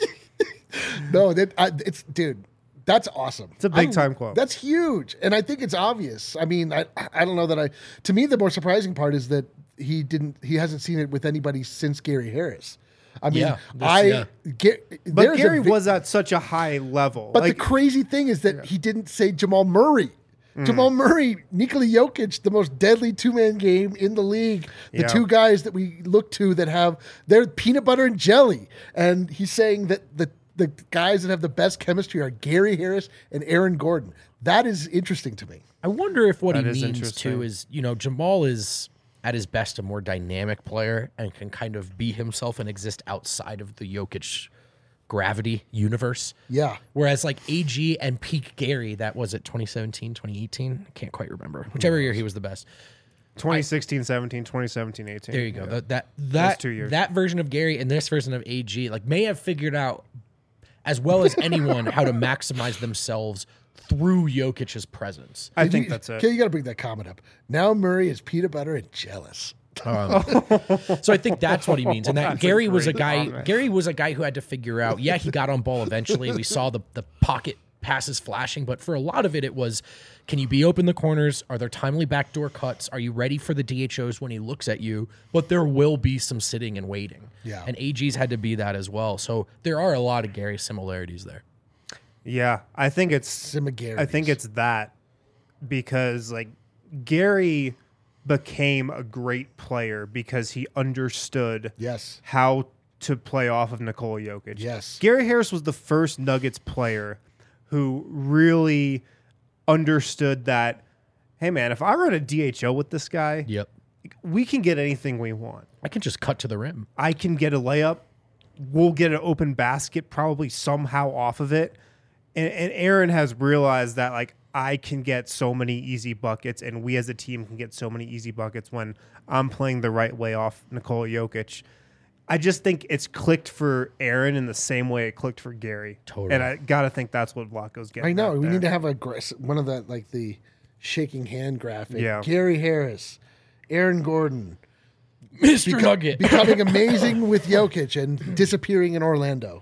No, that I, it's dude. That's awesome. It's a big I- time quote. That's huge, and I think it's obvious. I mean, I I don't know that I. To me, the more surprising part is that he didn't. He hasn't seen it with anybody since Gary Harris. I mean, Yeah, this- I yeah. get. But there's a Gary vi- was at such a high level. But like, the crazy thing is that he didn't say Jamal Murray. Jamal Murray, Nikola Jokic, the most deadly two-man game in the league. The Yeah. two guys that we look to that have they're peanut butter and jelly. And he's saying that the the guys that have the best chemistry are Gary Harris and Aaron Gordon. That is interesting to me. I wonder if what That he is means interesting. too is, you know, Jamal is at his best a more dynamic player and can kind of be himself and exist outside of the Jokic gravity universe. Yeah. Whereas like A G and peak Gary, that was it twenty seventeen, twenty eighteen? I can't quite remember. Whichever year he was the best. twenty sixteen, seventeen, twenty seventeen, eighteen. There you go. Yeah. That that that, two years. that version of Gary and this version of A G like may have figured out as well as anyone how to maximize themselves through Jokic's presence. I Did think you, that's it. Okay, you got to bring that comment up. Now Murray is peanut butter and jealous. Um, so I think that's what he means. And that That's a Gary was a great guy. comment. Gary was a guy who had to figure out. Yeah, he got on ball eventually. We saw the the pocket passes flashing, but for a lot of it, it was, can you be open the corners? Are there timely backdoor cuts? Are you ready for the D H Os when he looks at you? But there will be some sitting and waiting. Yeah. And A G's had to be that as well. So there are a lot of Gary similarities there. Yeah, I think it's Similarities. I think it's that because like Gary became a great player because he understood Yes. how to play off of Nikola Jokic. Yes. Gary Harris was the first Nuggets player who really understood that, hey man, if I run a D H O with this guy, Yep. we can get anything we want. I can just cut to the rim. I can get a layup. We'll get an open basket probably somehow off of it. And, and Aaron has realized that like I can get so many easy buckets, and we as a team can get so many easy buckets when I'm playing the right way off Nikola Jokic. I just think it's clicked for Aaron in the same way it clicked for Gary. Totally. And I gotta think that's what Vlatko's getting. I know. at We there. need to have a gra- one of the like the shaking hand graphic. Yeah. Gary Harris, Aaron Gordon, Mister beco- Nugget. becoming amazing with Jokic and disappearing in Orlando.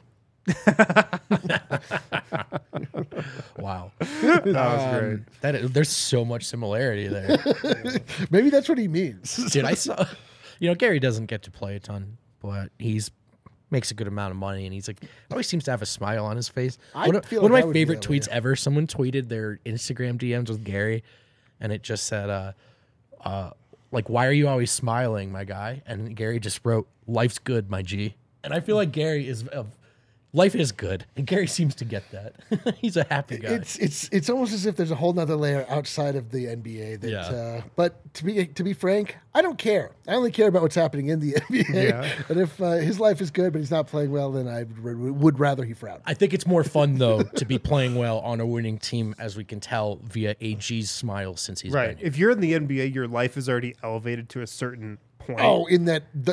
Wow. That was great. That is, there's so much similarity there. Maybe that's what he means. Dude, I saw, you know, Gary doesn't get to play a ton, but he's makes a good amount of money, and he's like always seems to have a smile on his face. I one of, feel one like I of my would be favorite that way. tweets ever. Someone tweeted their Instagram D Ms with Gary, and it just said, uh, uh, like, why are you always smiling, my guy? And Gary just wrote, "Life's good, my G." And I feel like Gary is of. Life is good, and Gary seems to get that. He's a happy guy. It's it's it's almost as if there's a whole nother layer outside of the N B A. That, Yeah. uh, but to be to be frank, I don't care. I only care about what's happening in the N B A. Yeah. And if uh, his life is good, but he's not playing well, then I would, would rather he frown. I think it's more fun though to be playing well on a winning team, as we can tell via A G's smile since he's Right. been here. If you're in the N B A, your life is already elevated to a certain point. Oh, in that the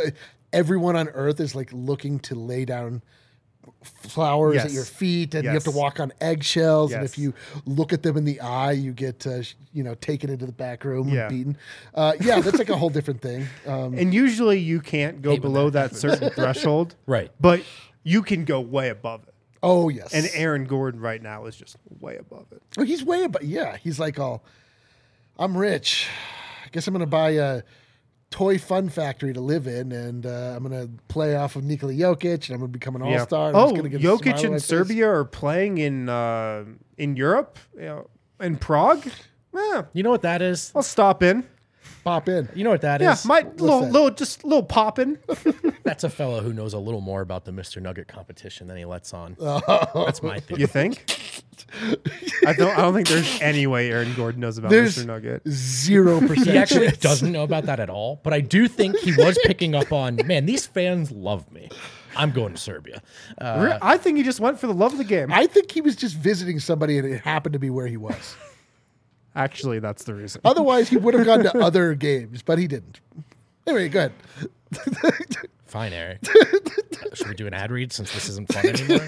everyone on earth is like looking to lay down flowers Yes. at your feet, and you have Yes. to walk on eggshells. And Yes. if you look at them in the eye, you get uh, sh- you know taken into the back room Yeah. and beaten. Uh, yeah, that's like a whole different thing. Um, And usually you can't go Hate when below that that certain threshold, Right. but you can go way above it. oh yes, And Aaron Gordon right now is just way above it. oh, he's way above. Yeah, he's like, all, I'm rich. I guess I'm gonna buy a toy fun factory to live in, and uh, I'm gonna play off of Nikola Jokic, and I'm gonna become an all Yeah. star. Oh, gonna get a smile on Jokic my and face. Serbia are playing in uh, in Europe, you know, in Prague. Yeah, You know what that is? I'll stop in. Pop in. You know what that is? Yeah, my little, that? little, just little popping. That's a fellow who knows a little more about the Mister Nugget competition than he lets on. Oh. That's my theory. You think? I don't. I don't think there's any way Aaron Gordon knows about There's Mister Nugget. zero percent. He actually chance. doesn't know about that at all, but I do think he was picking up on, man, these fans love me. I'm going to Serbia. Uh, Re- I think he just went for the love of the game. I think he was just visiting somebody, and it happened to be where he was. Actually, that's the reason. Otherwise, he would have gone to other games, but he didn't. Anyway, go ahead. fine, Eric. Should we do an ad read since this isn't fun anymore?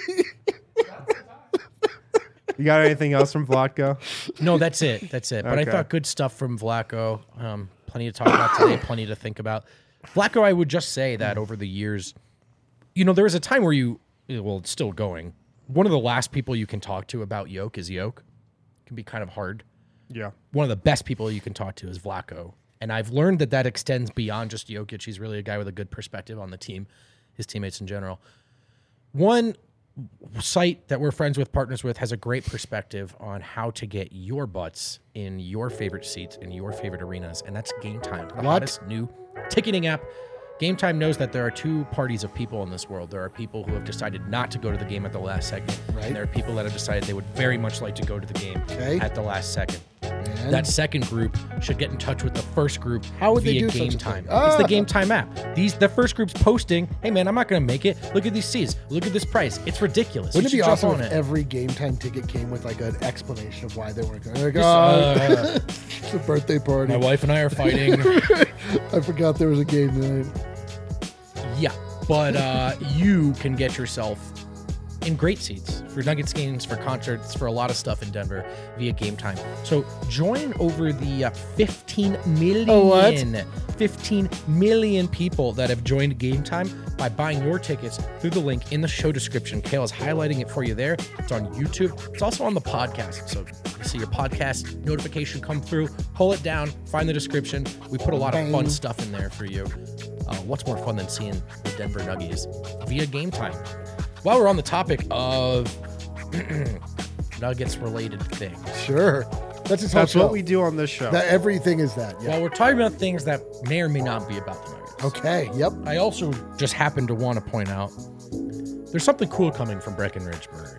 You got anything else from Vlatko? No, that's it. That's it. But Okay. I thought good stuff from Vlatko. Um, plenty to talk about today, plenty to think about. Vlatko, I would just say that over the years, you know, there was a time where you, well, it's still going. One of the last people you can talk to about Yoke is Yoke. It can be kind of hard. Yeah. One of the best people you can talk to is Vlatko. And I've learned that that extends beyond just Jokic. He's really a guy with a good perspective on the team, his teammates in general. One site that we're friends with, partners with, has a great perspective on how to get your butts in your favorite seats in your favorite arenas, and that's Game Time, the What? hottest new ticketing app. Game Time knows that there are two parties of people in this world. There are people who have decided not to go to the game at the last second, Right. and there are people that have decided they would very much like to go to the game Okay. at the last second. And That second group should get in touch with the first group How would they via do such Game a Time. thing? It's the Ah. Game Time app. These the first group's posting, "Hey man, I'm not going to make it. Look at these seats. Look at this price. It's ridiculous. wouldn't You it be should jump awesome on if it." every Game Time ticket came with like an explanation of why they weren't going? Like, This, oh, uh, it's a birthday party. My wife and I are fighting. I forgot there was a game tonight. Yeah, but uh, you can get yourself in great seats for Nuggets games, for concerts, for a lot of stuff in Denver via Game Time. So join over the uh, fifteen million, Oh, what? fifteen million people that have joined Game Time by buying your tickets through the link in the show description. Kale is highlighting it for you there. It's on YouTube. It's also on the podcast. So you see your podcast notification come through, pull it down, find the description. We put a lot of fun Bang. stuff in there for you. Uh, what's more fun than seeing the Denver Nuggets via Game Time? While we're on the topic of Nuggets related things, Sure, that's his whole That's show. what we do on this show. That everything is that. Yeah. while we're talking about things that may or may not be about the Nuggets, Okay. Yep. I also just happen to want to point out there's something cool coming from Breckenridge Brewery.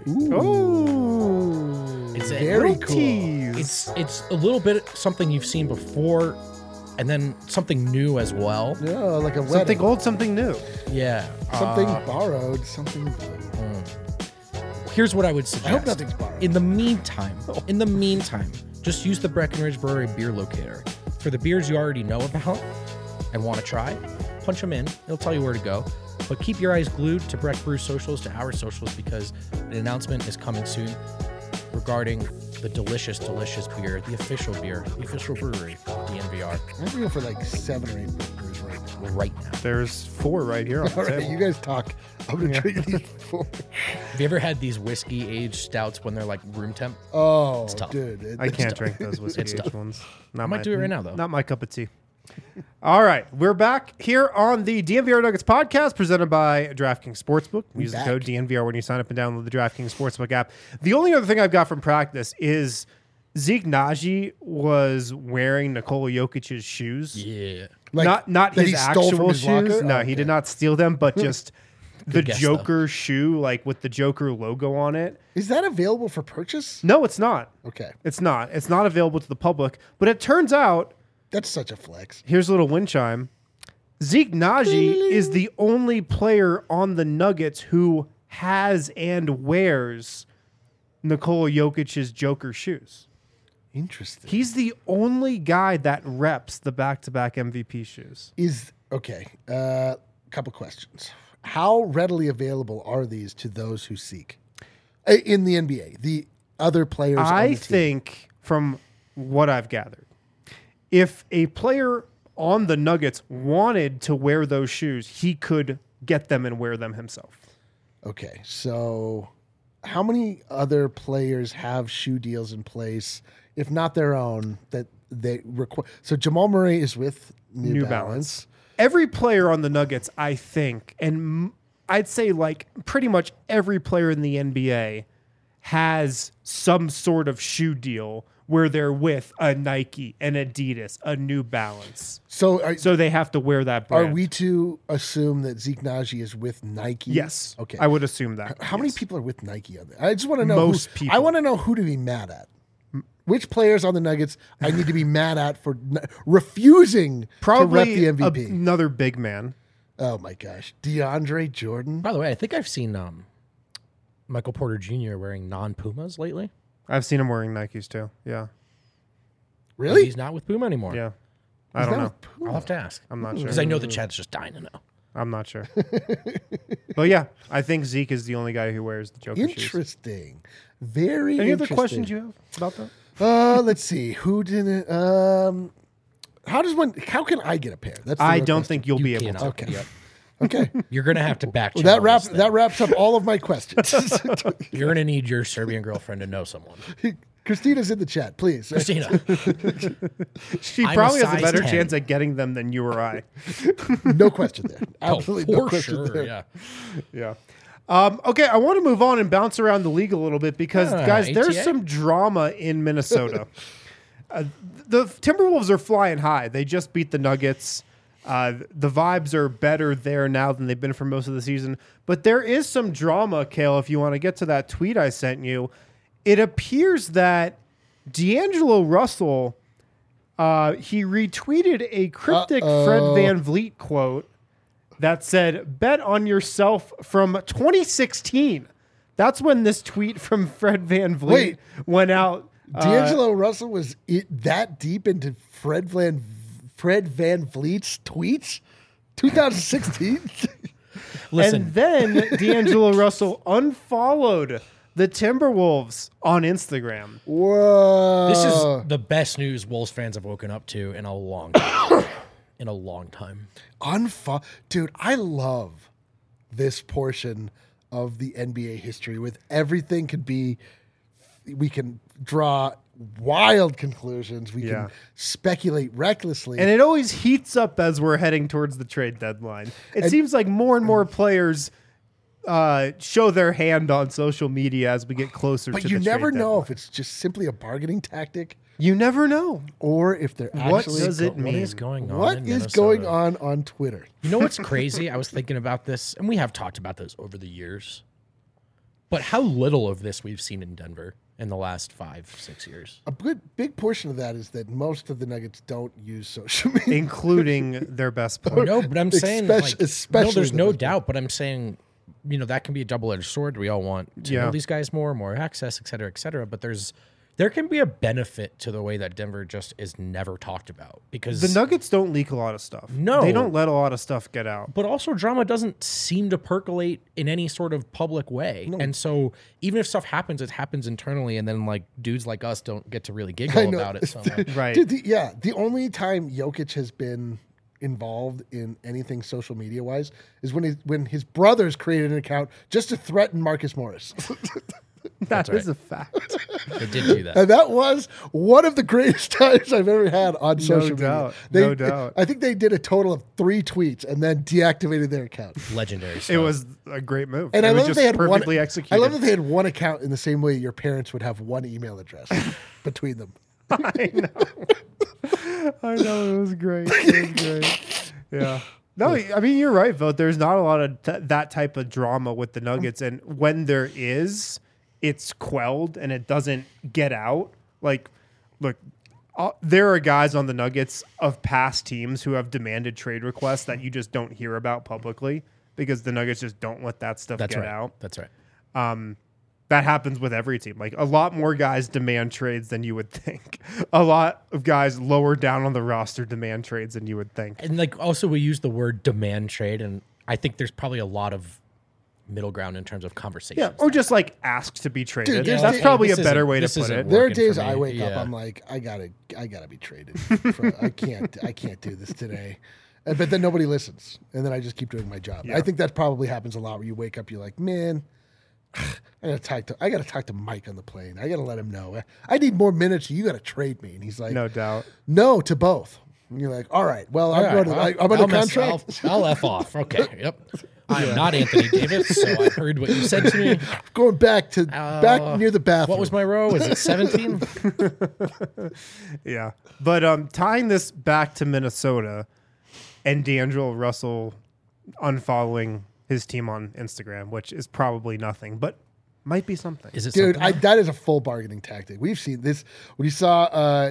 Ooh. It's a very little cool. tease. It's it's a little bit something you've seen before, and then something new as well. Yeah, like a something wedding. old, something new. Yeah. Something Uh, borrowed. Something. here's what I would I suggest. hope nothing's borrowed. In the meantime, in the meantime, just use the Breckenridge Brewery beer locator. For the beers you already know about and want to try, punch them in. It'll tell you where to go. But keep your eyes glued to Breck Brew socials, to our socials, because an announcement is coming soon regarding the delicious, delicious beer, the official beer, the official brewery of D N V R I'm going for like seven or eight burgers right now. right now. There's four right here on the All right, table. you guys talk. I'm gonna drink these before. Have you ever had these whiskey aged stouts when they're like room temp? Oh, tough. dude, it- I can't it's- drink those whiskey It's aged tough. ones. Not I might my- do it right now, though. Not my cup of tea. All right, we're back here on the D N V R Nuggets podcast presented by DraftKings Sportsbook. Use the back. code D N V R when you sign up and download the DraftKings Sportsbook app. The only other thing I've got from practice is Zeke Naji was wearing Nikola Jokic's shoes. Yeah. Like, not not that his he stole from actual his shoes. locker? No, Oh, he okay. did not steal them, but just the guess, though. Joker shoe, like with the Joker logo on it. Is that available for purchase? No, it's not. Okay, It's not. It's not available to the public. But it turns out, that's such a flex. here's a little wind chime. Zeke Naji is the only player on the Nuggets who has and wears Nikola Jokic's Joker shoes. Interesting. He's the only guy that reps the back-to-back M V P shoes. Is okay. Uh, couple questions. How readily available are these to those who seek Uh, in the N B A? The other players. on I the team. think, from what I've gathered, if a player on the Nuggets wanted to wear those shoes, he could get them and wear them himself. Okay, so how many other players have shoe deals in place, if not their own, that they require? So Jamal Murray is with New, New Balance. Balance. Every player on the Nuggets, I think, and m- I'd say like pretty much every player in the N B A has some sort of shoe deal where they're with a Nike, an Adidas, a New Balance. So are, So they have to wear that are brand. we to assume that Zeke Naji is with Nike? Yes. Okay. I would assume that. How yes. many people are with Nike on there? I just want to know. Most who, people. I want to know who to be mad at. Which players on the Nuggets I need to be mad at for n- refusing Probably to rep the M V P? a- another big man. Oh my gosh, DeAndre Jordan. By the way, I think I've seen um, Michael Porter Junior wearing non-Pumas lately. I've seen him wearing Nikes too. Yeah. Really? He's not with Puma anymore. Yeah. I He's don't not know. with Puma. I'll have to ask. I'm not sure. Because I know the chat's just dying to know. I'm not sure. But yeah, I think Zeke is the only guy who wears the Joker shoes. Interesting. Very. Any other interesting. questions you have about that? Uh, let's see. Who didn't? Um, how does one? How can I get a pair? That's. The I real don't question. think you'll You be able cannot. to. Okay. Yep. Okay. You're going to have to back Well, channel that wraps this thing. that wraps up all of my questions. You're going to need your Serbian girlfriend to know someone. Christina's in the chat, please. Christina. She I'm a probably has a size better ten. chance at getting them than you or I. No question there. Oh, Absolutely for no question sure. there. Yeah. Yeah. Um, okay, I want to move on and bounce around the league a little bit because, Ah, guys, there's A T A? some drama in Minnesota. uh, the Timberwolves are flying high. They just beat the Nuggets. Uh, the vibes are better there now than they've been for most of the season. But there is some drama, Kale, if you want to get to that tweet I sent you. It appears that D'Angelo Russell, uh, he retweeted a cryptic Uh-oh. Fred Van Vliet quote that said, bet on yourself from twenty sixteen. That's when this tweet from Fred Van Vliet Wait. went out. Uh, D'Angelo Russell was it, that deep into Fred Van Fred Van Vliet's tweets? twenty sixteen. Listen, and then D'Angelo Russell unfollowed the Timberwolves on Instagram. Whoa. this is the best news Wolves fans have woken up to in a long time. in a long time. Unfo- Dude, I love this portion of the N B A history with everything could be, we can draw wild conclusions. We Yeah. can speculate recklessly. And it always heats up as we're heading towards the trade deadline. It And- seems like more and more players uh, show their hand on social media as we get closer but to you the never trade know deadline. if it's just simply a bargaining tactic You never know. or if they're What actually. does it What mean? is going on? What in is Minnesota? going on on Twitter? You know what's crazy? I was thinking about this, and we have talked about this over the years. But how little of this we've seen in Denver in the last five, six years. A good big portion of that is that most of the Nuggets don't use social media. Including their best player. No, but I'm saying, Espec- like, especially no, there's the no best doubt. But I'm saying, you know, that can be a double-edged sword. We all want to Yeah. know these guys more, more access, et cetera, et cetera. But there's there can be a benefit to the way that Denver just is never talked about because The Nuggets don't leak a lot of stuff. No. They don't let a lot of stuff get out. But also, drama doesn't seem to percolate in any sort of public way. And so, even if stuff happens, it happens internally, and then like dudes like us don't get to really I giggle know. about it so much. Right. Dude, the, yeah, the only time Jokic has been involved in anything social media wise is when he, when his brothers created an account just to threaten Marcus Morris. That is right. a fact. They did do that. And that was one of the greatest times I've ever had on social media. doubt. They, No doubt. I think they did a total of three tweets and then deactivated their account. Legendary stuff. It was a great move. And it I was love that just they had perfectly one. executed. I love that they had one account in the same way your parents would have one email address between them. I know. I know. It was great. It was great. Yeah. No, I mean, you're right, Vote. There's not a lot of t- that type of drama with the Nuggets. And when there is, it's quelled and it doesn't get out. Like, look, uh, there are guys on the Nuggets of past teams who have demanded trade requests that you just don't hear about publicly because the Nuggets just don't let that stuff That's get right. out. That's right. Um, that happens with every team. Like a lot more guys demand trades than you would think. A lot of guys lower down on the roster demand trades than you would think. And like also we use the word demand trade, and I think there's probably a lot of middle ground in terms of conversation. Yeah, or just like ask to be traded. Dude, there's That's days- probably a this better isn't- way to this put isn't it. There are working for days me. I wake up, Yeah. I'm like, I gotta, I gotta be traded. For- I can't, I can't do this today. Uh, But then nobody listens, and then I just keep doing my job. Yeah. I think that probably happens a lot where you wake up, you're like, man, I gotta talk to, I gotta talk to Mike on the plane. I gotta let him know I need more minutes. You gotta trade me, and he's like, No doubt. no to both. And you're like, all right, well, I'm All going right, to, well, I, I'm on I'll a mess- contract. I'll, I'll F off. Okay. Yep. I am not Anthony Davis, so I heard what you said to me. Going back to Uh, back near the bathroom. What was my row? Is it seventeen? Yeah. But um, tying this back to Minnesota and D'Angelo Russell unfollowing his team on Instagram, which is probably nothing, but might be something. Is it Dude, something? I, that is a full bargaining tactic. We've seen this. We saw uh,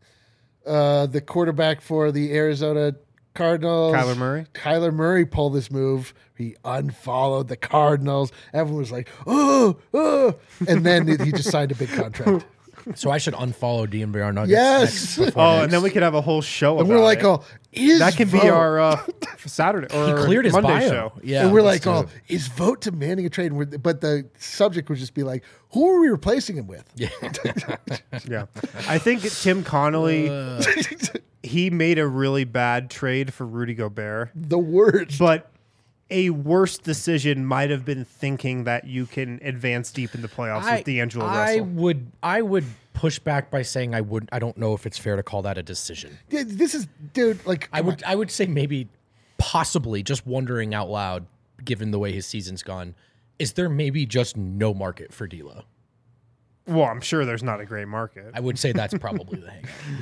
uh, the quarterback for the Arizona Cardinals, Kyler Murray? Kyler Murray pulled this move. He unfollowed the Cardinals. Everyone was like, "Oh, oh!" And then he just signed a big contract. So I should unfollow D N V R Nuggets. Yes. next before Oh, next. and then we could have a whole show And about we're like, it. "Oh, is That can be vote?" our uh, Saturday or he cleared his Monday bio. show. Yeah, and we're let's like, do "Oh, it. is vote demanding a trade?" And we're, but the subject would just be like, "Who are we replacing him with?" Yeah. Yeah. I think Tim Connolly, Uh, he made a really bad trade for Rudy Gobert. The words. But a worse decision might have been thinking that you can advance deep in the playoffs I, with D'Angelo I Russell. would I would push back by saying I would I don't know if it's fair to call that a decision. Yeah, this is, dude. Like, I come would I would say maybe possibly just wondering out loud, given the way his season's gone, is there maybe just no market for D'Lo? Well, I'm sure there's not a great market. I would say that's probably the hang.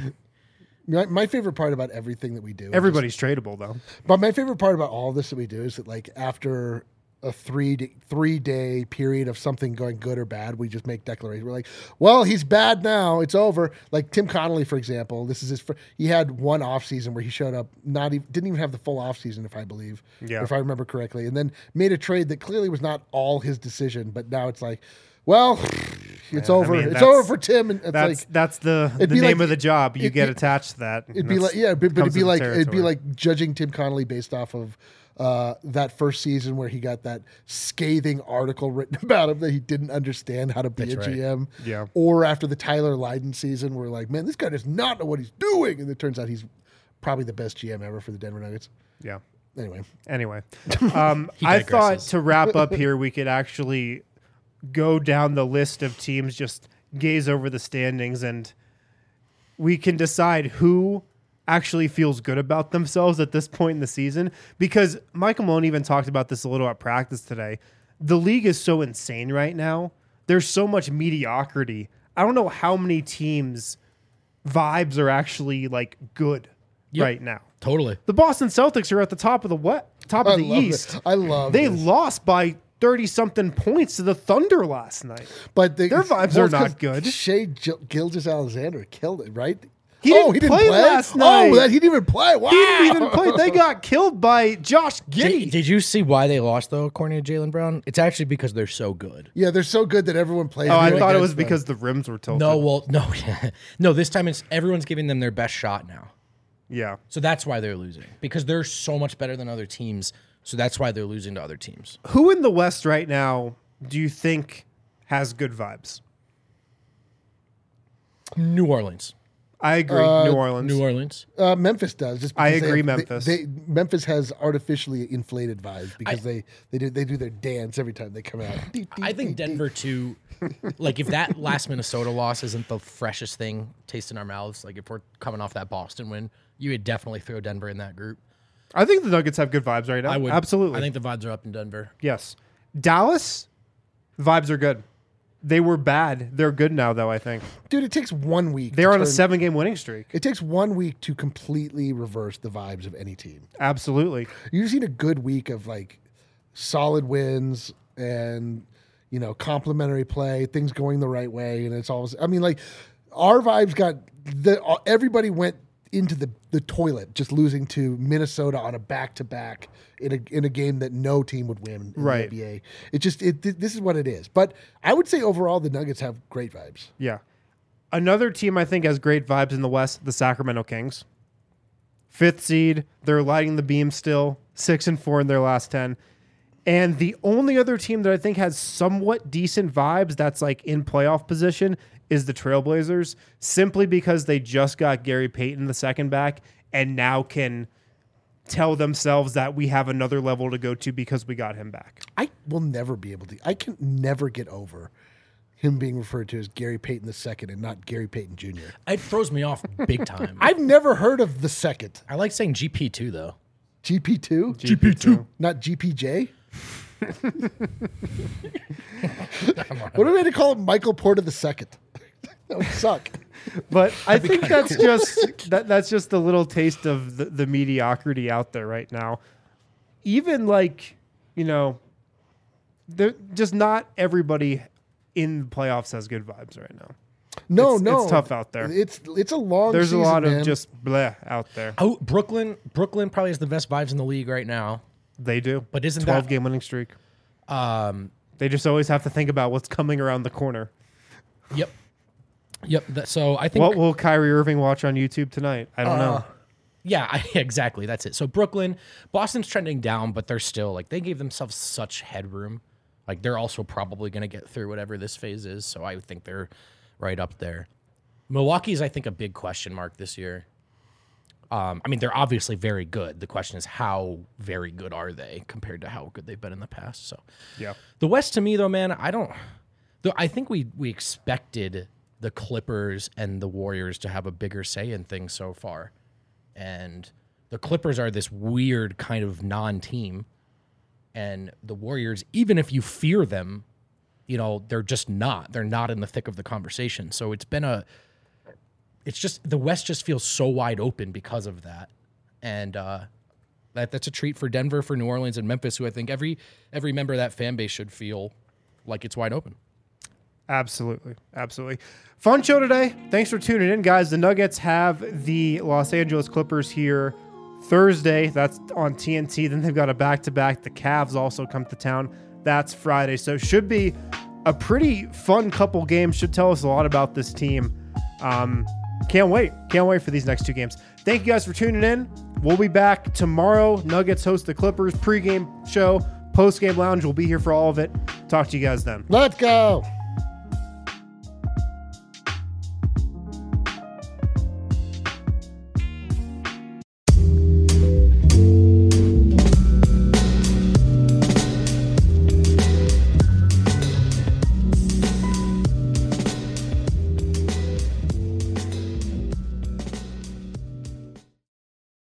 My, my favorite part about everything that we do, is Everybody's tradable, though. just- but my favorite part about all this that we do is that, like, after a three day, three day period of something going good or bad, we just make declarations. We're like, well, he's bad now. It's over. Like Tim Connolly, for example, this is his. Fir- he had one off season where he showed up, not even didn't even have the full off season, if I believe, Yeah. if I remember correctly, and then made a trade that clearly was not all his decision. But now it's like, well, it's Yeah, I over. mean, it's that's- over for Tim. And it's That's like. that's the, the it'd be name like- of the job. You it- get it- attached to that. It'd and be that's- like, yeah, but, but it'd comes be with like the it'd be territory. like judging Tim Connolly based off of uh, that first season where he got that scathing article written about him that he didn't understand how to be That's a right. G M. Yeah. Or after the Tyler Lydon season, where like, man, this guy does not know what he's doing, and it turns out he's probably the best G M ever for the Denver Nuggets. Yeah. Anyway, Anyway, um, He I thought digresses. to wrap up here, we could actually go down the list of teams, just gaze over the standings, and we can decide who actually feels good about themselves at this point in the season. Because Michael Malone even talked about this a little at practice today. The league is so insane right now. There's so much mediocrity. I don't know how many teams' vibes are actually like good Yep. right now. Totally. The Boston Celtics are at the top of the what? Top of I the love East. it. I love They this. lost by thirty something points to the Thunder last night. but they, their vibes well, are it's not 'cause good. Shea Gil- Gilgeous Alexander killed it, right? He oh, didn't he didn't play play last night. Oh, that he didn't even play. Wow. He didn't even play. They got killed by Josh Giddey. Did, did you see why they lost though, according to Jaylen Brown? It's actually because they're so good. Yeah, they're so good that everyone plays. oh, I them thought it against was them. because the rims were tilted. No, well, no, no. This time it's everyone's giving them their best shot now, Yeah. so that's why they're losing because they're so much better than other teams. So that's why they're losing to other teams. Who in the West right now do you think has good vibes? New Orleans, I agree. Uh, New Orleans. New Orleans. Uh, Memphis does. Just I because they agree, have- they- Memphis. They, Memphis has artificially inflated vibes because they, they do they do their dance every time they come out. I think Denver too. Like if that last Minnesota loss isn't the freshest thing taste in our mouths, like if we're coming off that Boston win, you would definitely throw Denver in that group. I think the Nuggets have good vibes right now. I would Absolutely. I think the vibes are up in Denver. Yes. Dallas, vibes are good. They were bad. They're good now, though, I think. Dude, it takes one week. They're to on a turn- seven game winning streak. It takes one week to completely reverse the vibes of any team. Absolutely. You just need a good week of like solid wins and you know complementary play, things going the right way, and it's always. I mean, like our vibes got the everybody went into the the toilet just losing to Minnesota on a back to back in a in a game that no team would win in Right. the N B A. It just it this is what it is. But I would say overall the Nuggets have great vibes. Yeah. Another team I think has great vibes in the West, the Sacramento Kings. fifth seed. They're lighting the beam still, six and four in their last ten. And the only other team that I think has somewhat decent vibes that's like in playoff position is the Trailblazers, simply because they just got Gary Payton, the second back, and now can tell themselves that we have another level to go to because we got him back. I will never be able to. I can never get over him being referred to as Gary Payton the second and not Gary Payton Junior It throws me off big time. I've never heard of the second. I like saying G P two though. G P two? G P two. Not G P J? What are we going to call him? Michael Porter the second? That would suck. But I think that's just that, that's just a little taste of the, the mediocrity out there right now. Even like, you know, they're just not everybody in the playoffs has good vibes right now. No, it's, no. It's tough out there. It's it's a long There's season, a lot man. of just bleh out there. Oh, Brooklyn. Brooklyn probably has the best vibes in the league right now. They do. But isn't twelve that- game winning streak. Um, They just always have to think about what's coming around the corner. Yep. Yep. That, so I think. What will Kyrie Irving watch on YouTube tonight? I don't know. Yeah, I, exactly. That's it. So Brooklyn, Boston's trending down, but they're still like they gave themselves such headroom. Like they're also probably going to get through whatever this phase is. So I think they're right up there. Milwaukee's, I think, a big question mark this year. Um, I mean, they're obviously very good. The question is, how very good are they compared to how good they've been in the past? So, Yeah. the West, to me, though, man, I don't. Though I think we we expected the Clippers and the Warriors to have a bigger say in things so far, and the Clippers are this weird kind of non-team, and the Warriors, even if you fear them, you know, they're just not. They're not in the thick of the conversation. So it's been a. It's just the West just feels so wide open because of that, and uh, that that's a treat for Denver, for New Orleans, and Memphis, who I think every every member of that fan base should feel like it's wide open. Absolutely. Absolutely. Fun show today. Thanks for tuning in, guys. The Nuggets have the Los Angeles Clippers here Thursday. That's on T N T. Then they've got a back-to-back. The Cavs also come to town. That's Friday. So should be a pretty fun couple games. Should tell us a lot about this team. Um, can't wait. Can't wait for these next two games. Thank you guys for tuning in. We'll be back tomorrow. Nuggets host the Clippers pregame show. Postgame lounge. We'll be here for all of it. Talk to you guys then. Let's go.